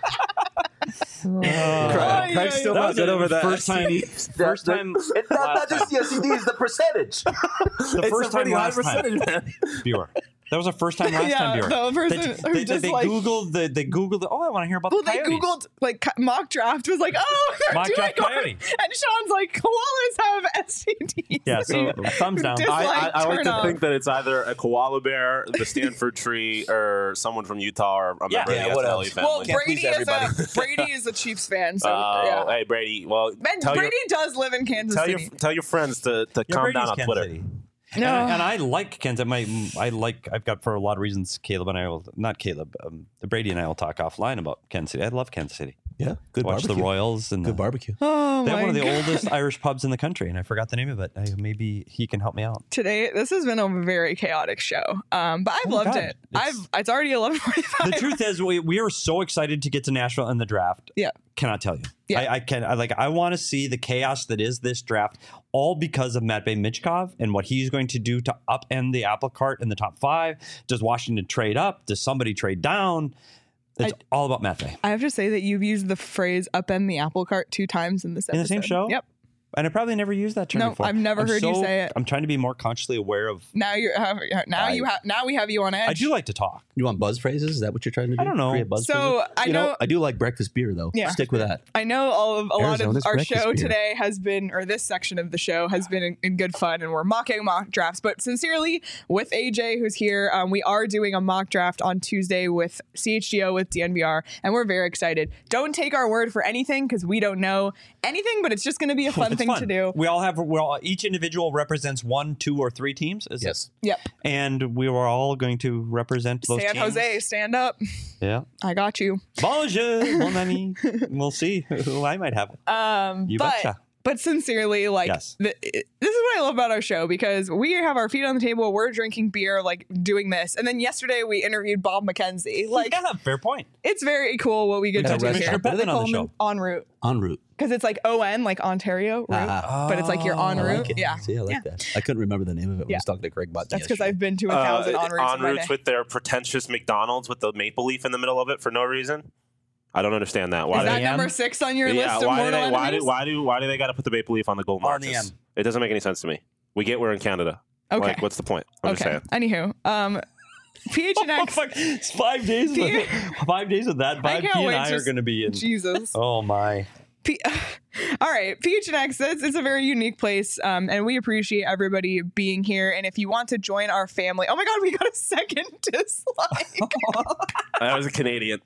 Craig, Craig's still That not was good the over that. first time. First time. It's not, not just the S T D, it's the percentage. The first time last time. Viewer. That was our first time last Yeah, time viewer. the person they, who they, just, they like- googled the they googled. Oh, I want to hear about Well, the they coyotes. googled like co- mock draft was like, oh, they're Mock doing draft one. coyote. And Sean's like, koalas have S T Ds. Yeah, so thumbs down. Dis- I, I, Like, I like turn to off. think that it's either a koala bear, the Stanford Tree, or someone from Utah, or a Yeah. member Yeah, of the what S L else? E family. well, Can't Brady please is a everybody. Brady is a Chiefs fan, so Oh, yeah. hey Brady. Well, And tell Brady your does live in Kansas tell your City. tell your friends to, to Yeah, calm Brady's down on Kansas Twitter. City. No. And, and I like Kansas. My, I like. I've got for a lot of reasons. Caleb and I will not Caleb. Um, Brady and I will talk offline about Kansas City. I love Kansas City. Yeah, good Watch barbecue. the Royals and Good the, barbecue. Oh They have my one of the God. oldest Irish pubs in the country, and I forgot the name of it. I, maybe he can help me out. Today, this has been a very chaotic show, um, but I've Oh my loved God. it. It's- I've it's already eleven forty-five. The truth is, we, we are so excited to get to Nashville in the draft. Yeah. Cannot tell you. Yeah. I, I can. I like. I want to see the chaos that is this draft, all because of Matt Bay Mitchkov and what he's going to do to upend the apple cart in the top five. Does Washington trade up? Does somebody trade down? It's I- all about Matt Bay. I have to say that you've used the phrase "upend the apple cart" two times in this In the episode. same show? Yep. And I probably never used that term No, before. I've never I'm heard you so- say it. I'm trying to be more consciously aware of. Now you're have, now I- you have now we have you on edge. I do like to talk. You want buzz phrases? Is that what you're trying to do? I don't know. Create buzz So, phrases? I You know- I do like breakfast beer though. Yeah. Stick with that. I know all of a lot of Arizona's our breakfast show beer. today has been, or this section of the show has been in, in good fun, and we're mocking mock drafts. But sincerely, with A J who's here, um, we are doing a mock draft on Tuesday with C H G O with D N V R, and we're very excited. Don't take our word for anything because we don't know anything, but it's just going to be a fun It's thing fun. to do. We all have. We all each individual represents one, two, or three teams. Is Yes. Yep. It? And we were all going to represent those San teams. Jose, stand up. Yeah. I got you. Bonjour, mon ami. We'll see who I might have. Um, You but betcha. but sincerely, like Yes. th- it- this is what I love about our show because we have our feet on the table, we're drinking beer, like doing this, and then yesterday we interviewed Bob McKenzie. Like yeah, fair point. it's very cool what we get Yeah, to do Commissioner here. Bettman What do they on call the him? show. En route En route. because it's like O N, like Ontario route, Ah. but it's like you're en Oh, I route. like it. Yeah, See, I like Yeah. that. I couldn't remember the name of it when Yeah. I was talking to Greg about that's because yesterday. I've been to a Uh, thousand en routes en in my routes day. with their pretentious McDonald's with the maple leaf in the middle of it for no reason. I don't understand that. Why Is do that they? M? number six on your Yeah, list of why do mortal they? Why do? enemies? Why do? Why do they got to put the maple leaf on the gold On the marches? M. It doesn't make any sense to me. We get we're in Canada. Okay. Like, what's the point? I'm just Okay. saying. Anywho, um, P H N Oh, X. fuck. It's five days. With, five days of that I vibe. can't P and wait I to are s- going to be in. Jesus. Oh my. P- All right, P H N X, it's, it's a very unique place, um, and we appreciate everybody being here. And if you want to join our family, oh my God, we got a second dislike. That was a Canadian,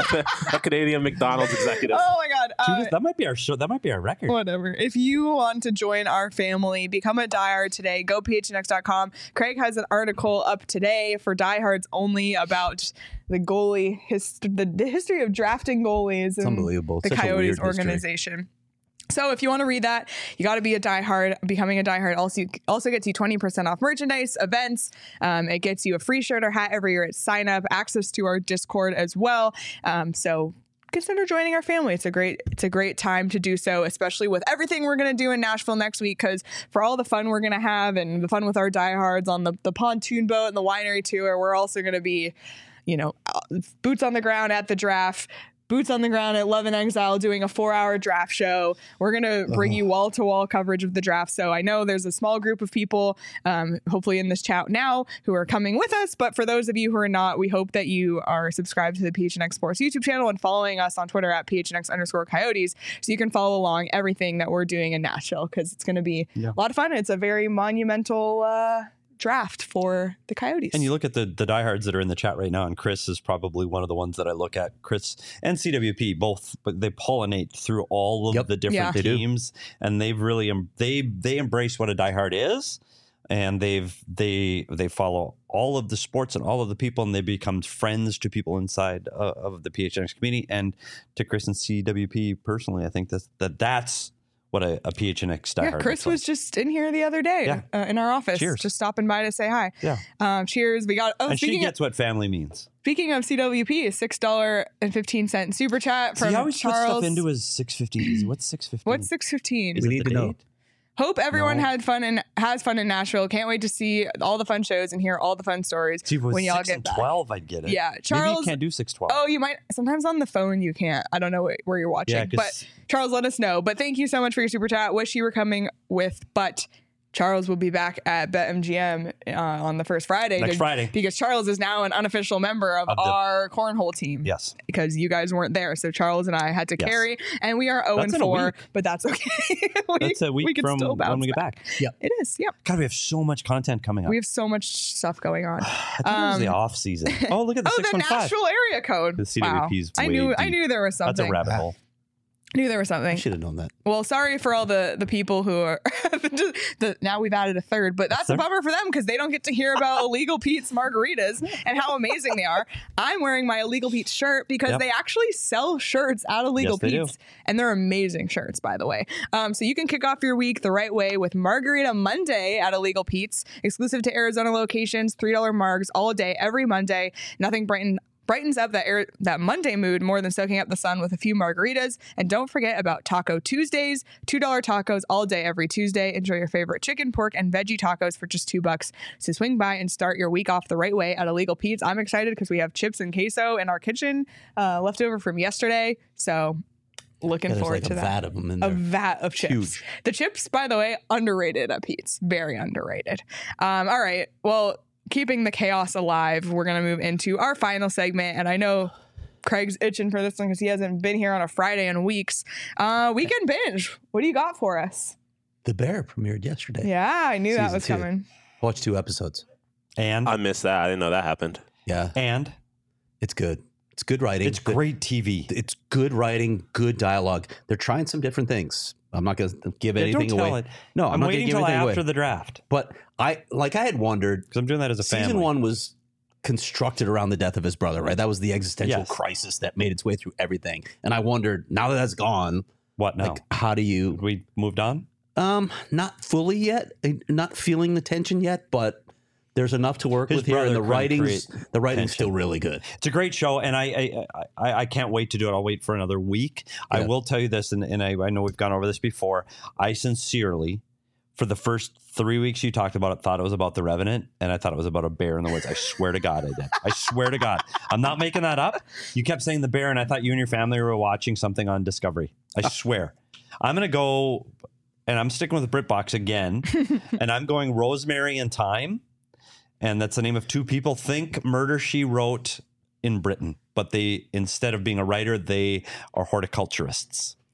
a Canadian McDonald's executive. Oh my God. Uh, that might be our show. That might be our record. Whatever. If you want to join our family, become a diehard today. Go P H N X dot com. Craig has an article up today for diehards only about the goalie, his, the, the history of drafting goalies in unbelievable. the Such a Coyotes weird history. organization. So if you want to read that, you got to be a diehard. Becoming a diehard also also gets you twenty percent off merchandise, events. Um, it gets you a free shirt or hat every year at sign up, access to our Discord as well. Um, so consider joining our family. It's a great it's a great time to do so, especially with everything we're going to do in Nashville next week, because for all the fun we're going to have and the fun with our diehards on the, the pontoon boat and the winery tour, we're also going to be, you know, boots on the ground at the draft. Boots on the ground at Love and Exile doing a four hour draft show. We're going to bring you wall to wall coverage of the draft. So I know there's a small group of people, um, hopefully in this chat now, who are coming with us. But for those of you who are not, we hope that you are subscribed to the P H N X Sports YouTube channel and following us on Twitter at P H N X underscore Coyotes. So you can follow along everything that we're doing in Nashville, because it's going to be yeah. a lot of fun. It's a very monumental uh draft for the Coyotes. And you look at the the diehards that are in the chat right now, and Chris is probably one of the ones that I look at. Chris and C W P both, but they pollinate through all of yep. the different yeah. teams, and they've really they they embrace what a diehard is, and they've they they follow all of the sports and all of the people, and they become friends to people inside uh, of the P H N X community. And to Chris and C W P personally, I think that that that's what a, a P H N X diehard. Yeah, Chris was like. just in here the other day yeah. uh, in our office, cheers. just stopping by to say hi. Yeah. Um, cheers. We got. Oh, and she gets of, what family means. Speaking of C W P, a six dollar and fifteen cent super chat from so he always Charles. puts stuff into his six fifteen. What's six fifteen? What's six fifteen? We need to know. Hope everyone No. had fun and has fun in Nashville. Can't wait to see all the fun shows and hear all the fun stories See, when y'all six get and back. twelve, I'd get it. Yeah, Maybe Charles. you can't do six twelve. Oh, you might. Sometimes on the phone you can't. I don't know wh- where you're watching. Yeah, 'cause- but Charles, let us know. But thank you so much for your super chat. Wish you were coming with, but Charles will be back at BetMGM uh, on the first Friday. Next to- Friday. Because Charles is now an unofficial member of, Of the- our cornhole team. Yes. Because you guys weren't there. So Charles and I had to Yes. carry, and we are oh and That's in a four, week. but that's okay. we, That's a week we can from still bounce when we get back. Yeah. It is, yeah. God, we have so much content coming up. We have so much stuff going on. I thought it was the um, off season. Oh, look at the Oh, six the one five. Nashville area code. The C wow. W P's I way knew I deep. knew there was That's something. a rabbit hole. knew there was I something. should have known that. Well, sorry for all the the people who are just the now we've added a third, but that's a Third? bummer for them because they don't get to hear about Illegal Pete's margaritas and how amazing they are. I'm wearing my Illegal Pete's shirt because Yep. they actually sell shirts at Illegal Yes, they do. Pete's, and they're amazing shirts, by the way. Um, so you can kick off your week the right way with Margarita Monday at Illegal Pete's, exclusive to Arizona locations, three dollar margs all day every Monday. Nothing brighten brightens up that air, that Monday mood more than soaking up the sun with a few margaritas. And don't forget about Taco Tuesdays, two dollar tacos all day every Tuesday. Enjoy your favorite chicken, pork, and veggie tacos for just two bucks. So swing by and start your week off the right way at Illegal Pete's. I'm excited because we have chips and queso in our kitchen uh, left over from yesterday. So looking Yeah, there's forward like to a that. vat of them in A there. vat of chips. Huge. The chips, by the way, underrated at Pete's. Very underrated. Um, all right. Well, keeping the chaos alive, we're going to move into our final segment. And I know Craig's itching for this one because he hasn't been here on a Friday in weeks. Uh, weekend binge. What do you got for us? The Bear premiered yesterday. Yeah, I knew that Season was two. coming. Watched two episodes. And I missed that. I didn't know that happened. Yeah, and it's good. It's good writing. it's The- great T V. It's good writing, good dialogue. They're trying some different things. I'm not going to give Yeah, anything don't tell away. it. No, I'm, I'm not waiting going to give till anything after away. the draft But I like I had wondered. because I'm doing that as a family. Season one was constructed around the death of his brother, right? That was the existential Yes. crisis that made its way through everything. And I wondered, now that that's gone, What now? like, how do you? we moved on. Um, not fully yet, uh, not feeling the tension yet, but there's enough to work His with here, and brother the couldn't writing's create the writing's tension. still really good. It's a great show, and I I, I, I can't wait to do it. I'll wait for another week. I Yeah. will tell you this, and, and I, I know we've gone over this before. I sincerely, for the first three weeks you talked about it, thought it was about the Revenant, and I thought it was about a bear in the woods. I swear to God, I did. I swear to God, I'm not making that up. You kept saying the bear, and I thought you and your family were watching something on Discovery. I swear. I'm gonna go, and I'm sticking with BritBox again, and I'm going Rosemary and Thyme. And that's the name of two people. Think Murder, She Wrote in Britain. But they, instead of being a writer, they are horticulturists.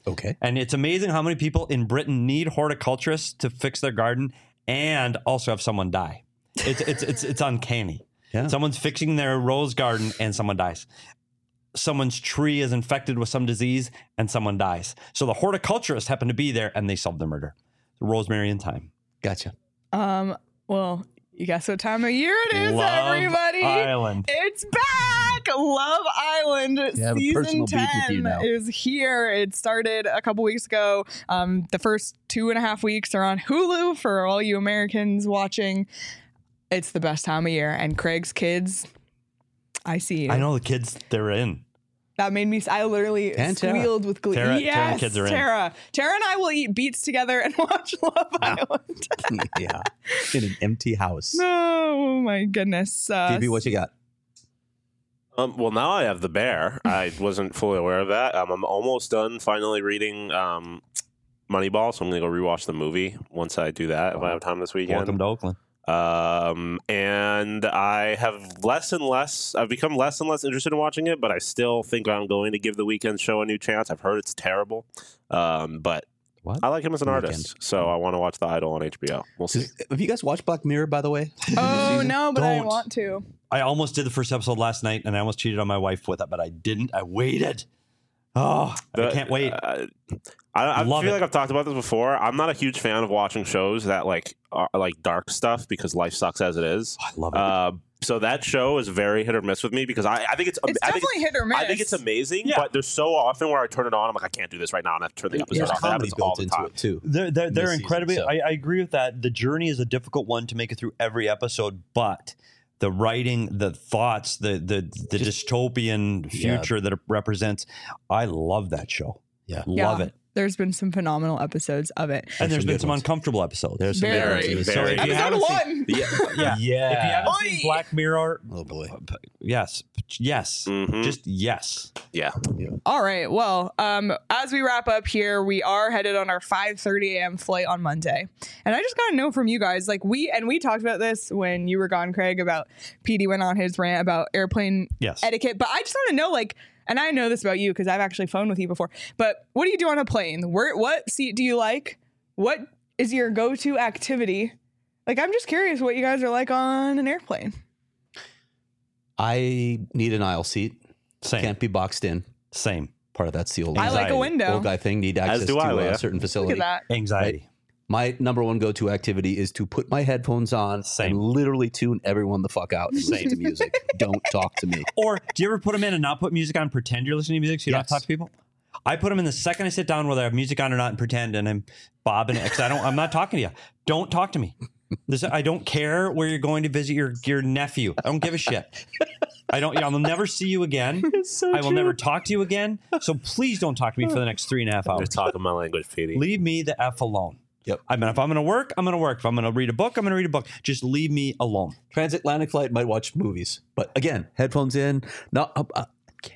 Okay. And it's amazing how many people in Britain need horticulturists to fix their garden and also have someone die. It's it's it's it's uncanny. Yeah. Someone's fixing their rose garden and someone dies. Someone's tree is infected with some disease and someone dies. So the horticulturists happen to be there and they solve the murder. Rosemary in Thyme. Gotcha. Um, well, you guess what time of year it is, Love everybody? Island. It's back! Love Island You have a season personal beef with you ten now. is here. It started a couple weeks ago. Um, the first two and a half weeks are on Hulu for all you Americans watching. It's the best time of year. And Craig's kids, I see you. I know the kids they're in. That made me, I literally And Tara. squealed with glee. Tara- Tara and yes, the kids are in. Tara. Tara and I will eat beets together and watch Love Island. Yeah. In an empty house. Oh my goodness. Uh, D B, what you got? Um, well, now I have The Bear. I wasn't fully aware of that. Um, I'm almost done finally reading um, Moneyball, so I'm going to go rewatch the movie once I do that if I have time this weekend. Welcome to Oakland. Um, and I have less and less, I've become less and less interested in watching it, but I still think I'm going to give the Weekend show a new chance. I've heard it's terrible. Um, but What? I like him as an The artist, Weeknd. so I want to watch The Idol on H B O. We'll see. Have you guys watched Black Mirror, by the way? Oh no, but I Don't. want to. I almost did the first episode last night and I almost cheated on my wife with it, but I didn't. I waited. Oh, I The- can't wait. Uh, I, I Love feel it. like I've talked about this before. I'm not a huge fan of watching shows that like are like dark stuff because life sucks as it is. I love it. Uh, so that show is very hit or miss with me because I, I think it's, It's I think definitely hit or miss. I think it's amazing, Yeah. but there's so often where I turn it on, I'm like, I can't do this right now, and I have to turn the episode There's off. That comedy happens all built the into time. it, too. They're they're, they're this season, incredibly. so. I, I agree with that. The journey is a difficult one to make it through every episode, but the writing, the thoughts, the the the dystopian future that it represents, I love that show. Yeah. Love Yeah. it. There's been some phenomenal episodes of it. And there's some been good some ones. uncomfortable episodes. There's some Very, good ones. So very- if you Episode haven't seen- one. Yeah. yeah, Yeah. If you haven't Oi. seen Black Mirror, Oh, boy. yes, yes, Mhm. just yes. Yeah. All right. Well, um, as we wrap up here, we are headed on our five thirty a.m. flight on Monday, and I just got to know from you guys, like we and we talked about this when you were gone, Craig, about P D went on his rant about airplane Yes. etiquette, but I just want to know, like, and I know this about you because I've actually flown with you before, but what do you do on a plane? Where, what seat do you like? What is your go-to activity? Like, I'm just curious what you guys are like on an airplane. I need an aisle seat. Same. Can't be boxed in. Same. Part of that seal. I like a Anxiety. window. Old guy thing. Need access do to I, a Leah. certain Look facility. at that. Anxiety. My number one go-to activity is to put my headphones on Same. and literally tune everyone the fuck out and listen to music. Don't talk to me. Or do you ever put them in and not put music on, pretend you're listening to music so you don't have to Yes. talk to people? I put them in the second I sit down, whether I have music on or not, and pretend, and I'm bobbing it because I don't. I'm not talking to you. Don't talk to me. This, I don't care where you're going to visit your your nephew. I don't give a shit. I don't. I will never see you again. I will never talk to you again. So please don't talk to me for the next three and a half You're hours. talking my language, P D. Leave me the f alone. Yep. I mean, if I'm going to work, I'm going to work. If I'm going to read a book, I'm going to read a book. Just leave me alone. Transatlantic flight might watch movies, but again, headphones in. No, uh, uh,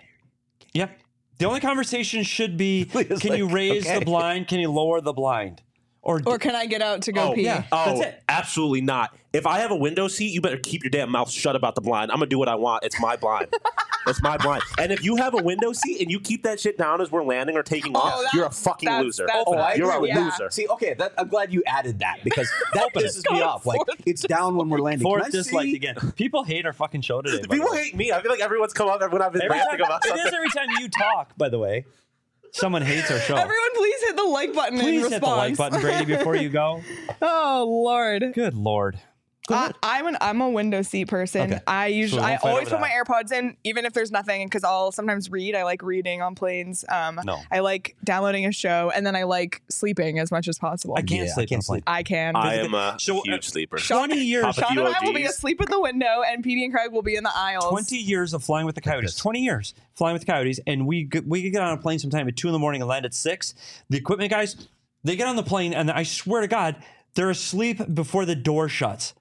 Yeah. The only conversation should be: Leah's can you like, raise okay. the blind? Can you lower the blind? Or, Or can I get out to go Oh, pee? yeah. Oh, That's it. absolutely not. If I have a window seat, you better keep your damn mouth shut about the blind. I'm going to do what I want. It's my blind. It's my blind. And if you have a window seat and you keep that shit down as we're landing or taking Oh, off, that's- you're a fucking that's- loser. that's- Oh, I you're a agree. Yeah. loser. See, okay, that, I'm glad you added that because that pisses me off. Like, it's down when we're landing. fourth Can I dislike see? again. People hate our fucking show today. by the People way. hate me. I feel like everyone's come up when I've been Every ranting time, about it something. is every time you talk, by the way. Someone hates our show. Everyone, please hit the like button in Please response. hit the like button, Brady, before you go. Oh Lord. Good Lord. I, I'm an I'm a window seat person. Okay. I usually we I won't fight always over put my that. AirPods in, even if there's nothing, because I'll sometimes read. I like reading on planes. Um, No. I like downloading a show, and then I like sleeping as much as possible. I can't Yeah, I sleep. can't on a plane. sleep. I can. I am a So, uh, huge sleeper. twenty years. Papa Sean and I will be Q O Gs. asleep at the window, and P D and Craig will be in the aisles. twenty years of flying with the Coyotes. Yes. twenty years flying with the Coyotes. And we g- we could get on a plane sometime at two in the morning and land at six. The equipment guys, they get on the plane and I swear to God, they're asleep before the door shuts.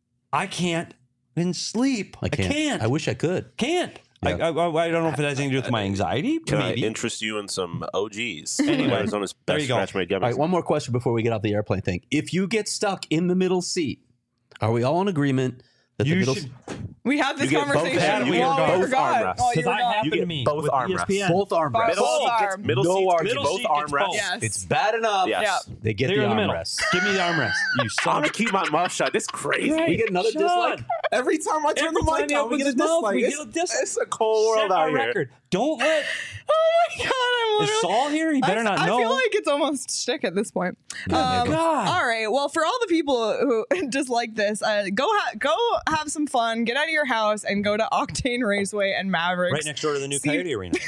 I can't even sleep. I can't. I can't. I wish I could. Can't. I, Yeah. I, I don't know if it has anything to do with my anxiety. Can I Maybe. interest you in some O Gs? Anyway, Arizona's there best you go. scratch made gummies. All right, one more question before we get off the airplane thing. If you get stuck in the middle seat, are we all in agreement that the You middle should We had this You get both- conversation. Adam, we while get we both forgot. arm rests. Oh, you Because were I gone. happened You to get me both with arm E S P N. Both arm Both rests. Middle Both seat arm. gets middle No seats argument. get both Middle arm seat rests. gets Yes. It's bad enough. Yes. They get They're the in the arm middle. rests. Give me the armrest. You I'm son gonna of keep my mouth shut. This crazy. We get another Shut dislike. Every time I turn Every the time mic he on, we opens get a his mouth, dislike. we It's, get a dis- it's a cold world Set out a here. record. Don't let. Oh my god, I'm Is literally. Saul here? He better I, not I know. feel like it's almost shtick at this point. Yeah, maybe. God. All right. Well, for all the people who just like this, uh, go ha- go have some fun. Get out of your house and go to Octane Raceway and Mavericks. Right next door to the new See- Coyote Arena.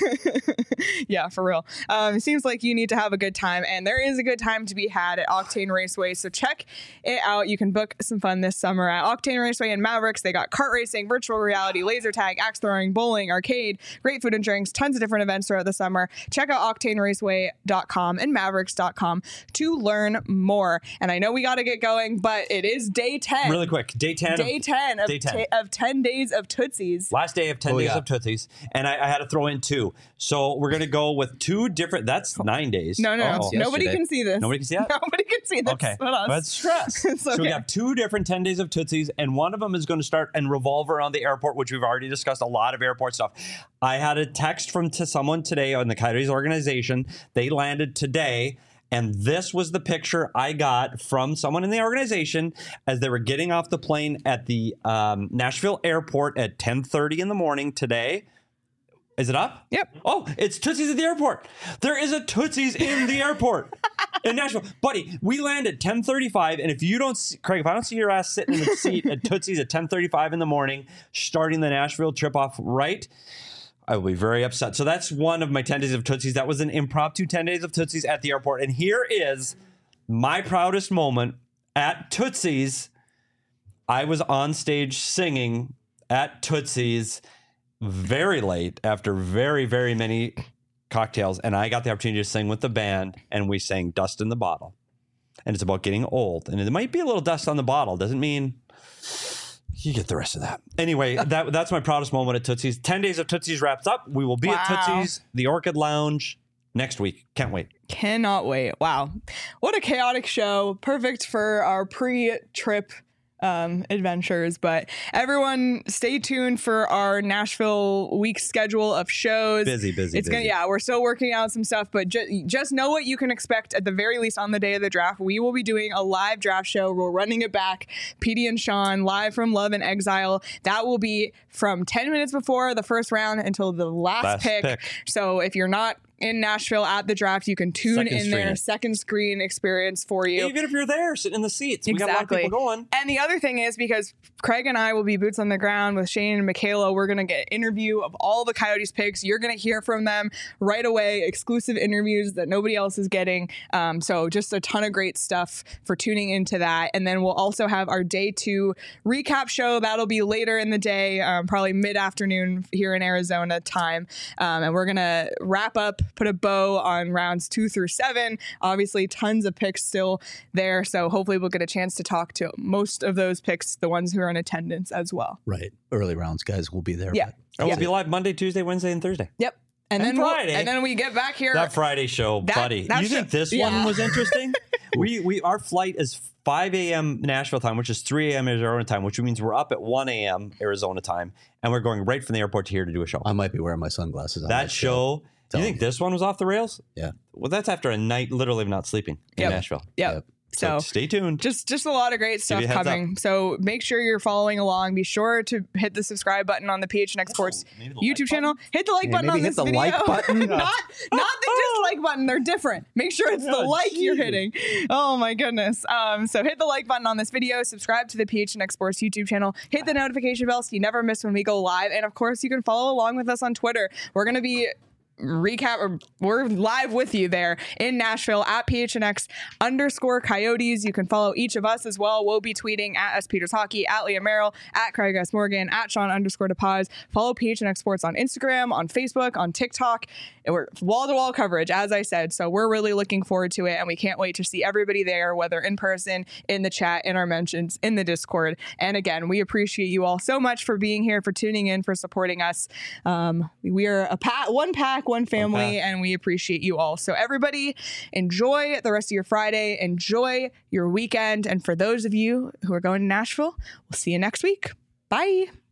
Yeah, for real. Um, it seems like you need to have a good time, and there is a good time to be had at Octane Raceway. So check it out. You can book some fun this summer at Octane Raceway and Mavericks. They got kart racing, virtual reality, laser tag, axe throwing, bowling, arcade, great food and drinks, tons of different events throughout the summer. Check out octane raceway dot com and mavericks dot com to learn more. And I know we got to get going, but it is day ten. Really quick. Day ten. Day of, ten of, Day ten. ta- of ten days of Tootsies. Last day of ten What we days got? of Tootsies. And I, I had to throw in two. So we're going to go with two different. That's nine days. No, no, no. Oh. Nobody yesterday. can see this. Nobody can see that? Nobody can see this. Okay. But us. That's stress. It's So we okay. have two different ten days of Tootsies, and one of them is going to start and revolve around the airport, which we've already discussed a lot of airport stuff. I had a text from to someone today on the Coyotes organization. They landed today. And this was the picture I got from someone in the organization as they were getting off the plane at the um, Nashville airport at ten thirty in the morning today. Is it up? Yep. Oh, it's Tootsies at the airport. There is a Tootsies in the airport in Nashville. Buddy, we land at ten thirty-five, and if you don't see, Craig, if I don't see your ass sitting in the seat at Tootsies at ten thirty-five in the morning, starting the Nashville trip off right, I will be very upset. So that's one of my ten days of Tootsies. That was an impromptu ten days of Tootsies at the airport. And here is my proudest moment at Tootsies. I was on stage singing at Tootsies very late after very, very many cocktails. And I got the opportunity to sing with the band, and we sang Dust in the Bottle. And it's about getting old. And it might be a little dust on the bottle. Doesn't mean you get the rest of that. Anyway, that that's my proudest moment at Tootsies. ten days of Tootsies wraps up. We will be at Wow. Tootsies, the Orchid Lounge, next week. Can't wait. Cannot wait. Wow. What a chaotic show. Perfect for our pre-trip um, adventures. But everyone stay tuned for our Nashville week schedule of shows. Busy, busy, It's gonna, busy. yeah, we're still working out some stuff, but ju- just know what you can expect at the very least on the day of the draft. We will be doing a live draft show. We're running it back. Petey and Sean live from Love and Exile. That will be from ten minutes before the first round until the last, Last pick. pick. So if you're not in Nashville at the draft, you can tune Second in screen there. it. Second screen experience for you. Even if you're there, sitting in the seats. We got a lot of Exactly. people going. And the other thing is, because Craig and I will be boots on the ground with Shane and Michaela, we're going to get interview of all the Coyotes picks. You're going to hear from them right away, exclusive interviews that nobody else is getting. Um, so just a ton of great stuff for tuning into that. And then we'll also have our day two recap show. That'll be later in the day, um, probably mid-afternoon here in Arizona time. Um, and we're going to wrap up, put a bow on rounds two through seven. Obviously, tons of picks still there. So hopefully we'll get a chance to talk to most of those picks, the ones who are in attendance as well. Right. Early rounds, guys, will be there. Yeah. but- And we'll Yeah. be live Monday, Tuesday, Wednesday, and Thursday. Yep. And, And then we'll- Friday. and then we get back here. That Friday show, That- buddy. that You think show- this yeah. one was interesting? we we our flight is five a.m. Nashville time, which is three a.m. Arizona time, which means we're up at one a.m. Arizona time, and we're going right from the airport to here to do a show. I might be wearing my sunglasses. on that show. Tell You me. think this one was off the rails? Yeah. Well, that's after a night literally of not sleeping in Yep. Nashville. Yep. Yep. So, So stay tuned. just just a lot of great stuff you a heads coming. So make sure you're following along. Be sure to hit the subscribe button on the P H N X Sports maybe the YouTube like channel. Hit the like Yeah, button maybe on hit this the video. like button. not not the dislike button. They're different. Make sure it's the Oh, like you're geez. hitting. Oh my goodness. Um, so hit the like button on this video. Subscribe to the P H N X Sports YouTube channel. Hit the notification bell so you never miss when we go live. And of course, you can follow along with us on Twitter. We're gonna be recap or we're live with you there in Nashville at P H N X underscore Coyotes. You can follow each of us as well. We'll be tweeting at S Peters Hockey, at Leah Merrill, at Craig S Morgan, at Sean underscore DePaz. Follow P H N X Sports on Instagram, on Facebook, on TikTok. And we're wall to wall coverage, as I said. So we're really looking forward to it, and we can't wait to see everybody there, whether in person, in the chat, in our mentions, in the Discord. And again, we appreciate you all so much for being here, for tuning in, for supporting us. Um, we are a pack, one pack, one family, pack. and we appreciate you all. So everybody, enjoy the rest of your Friday, enjoy your weekend, and for those of you who are going to Nashville, we'll see you next week. Bye.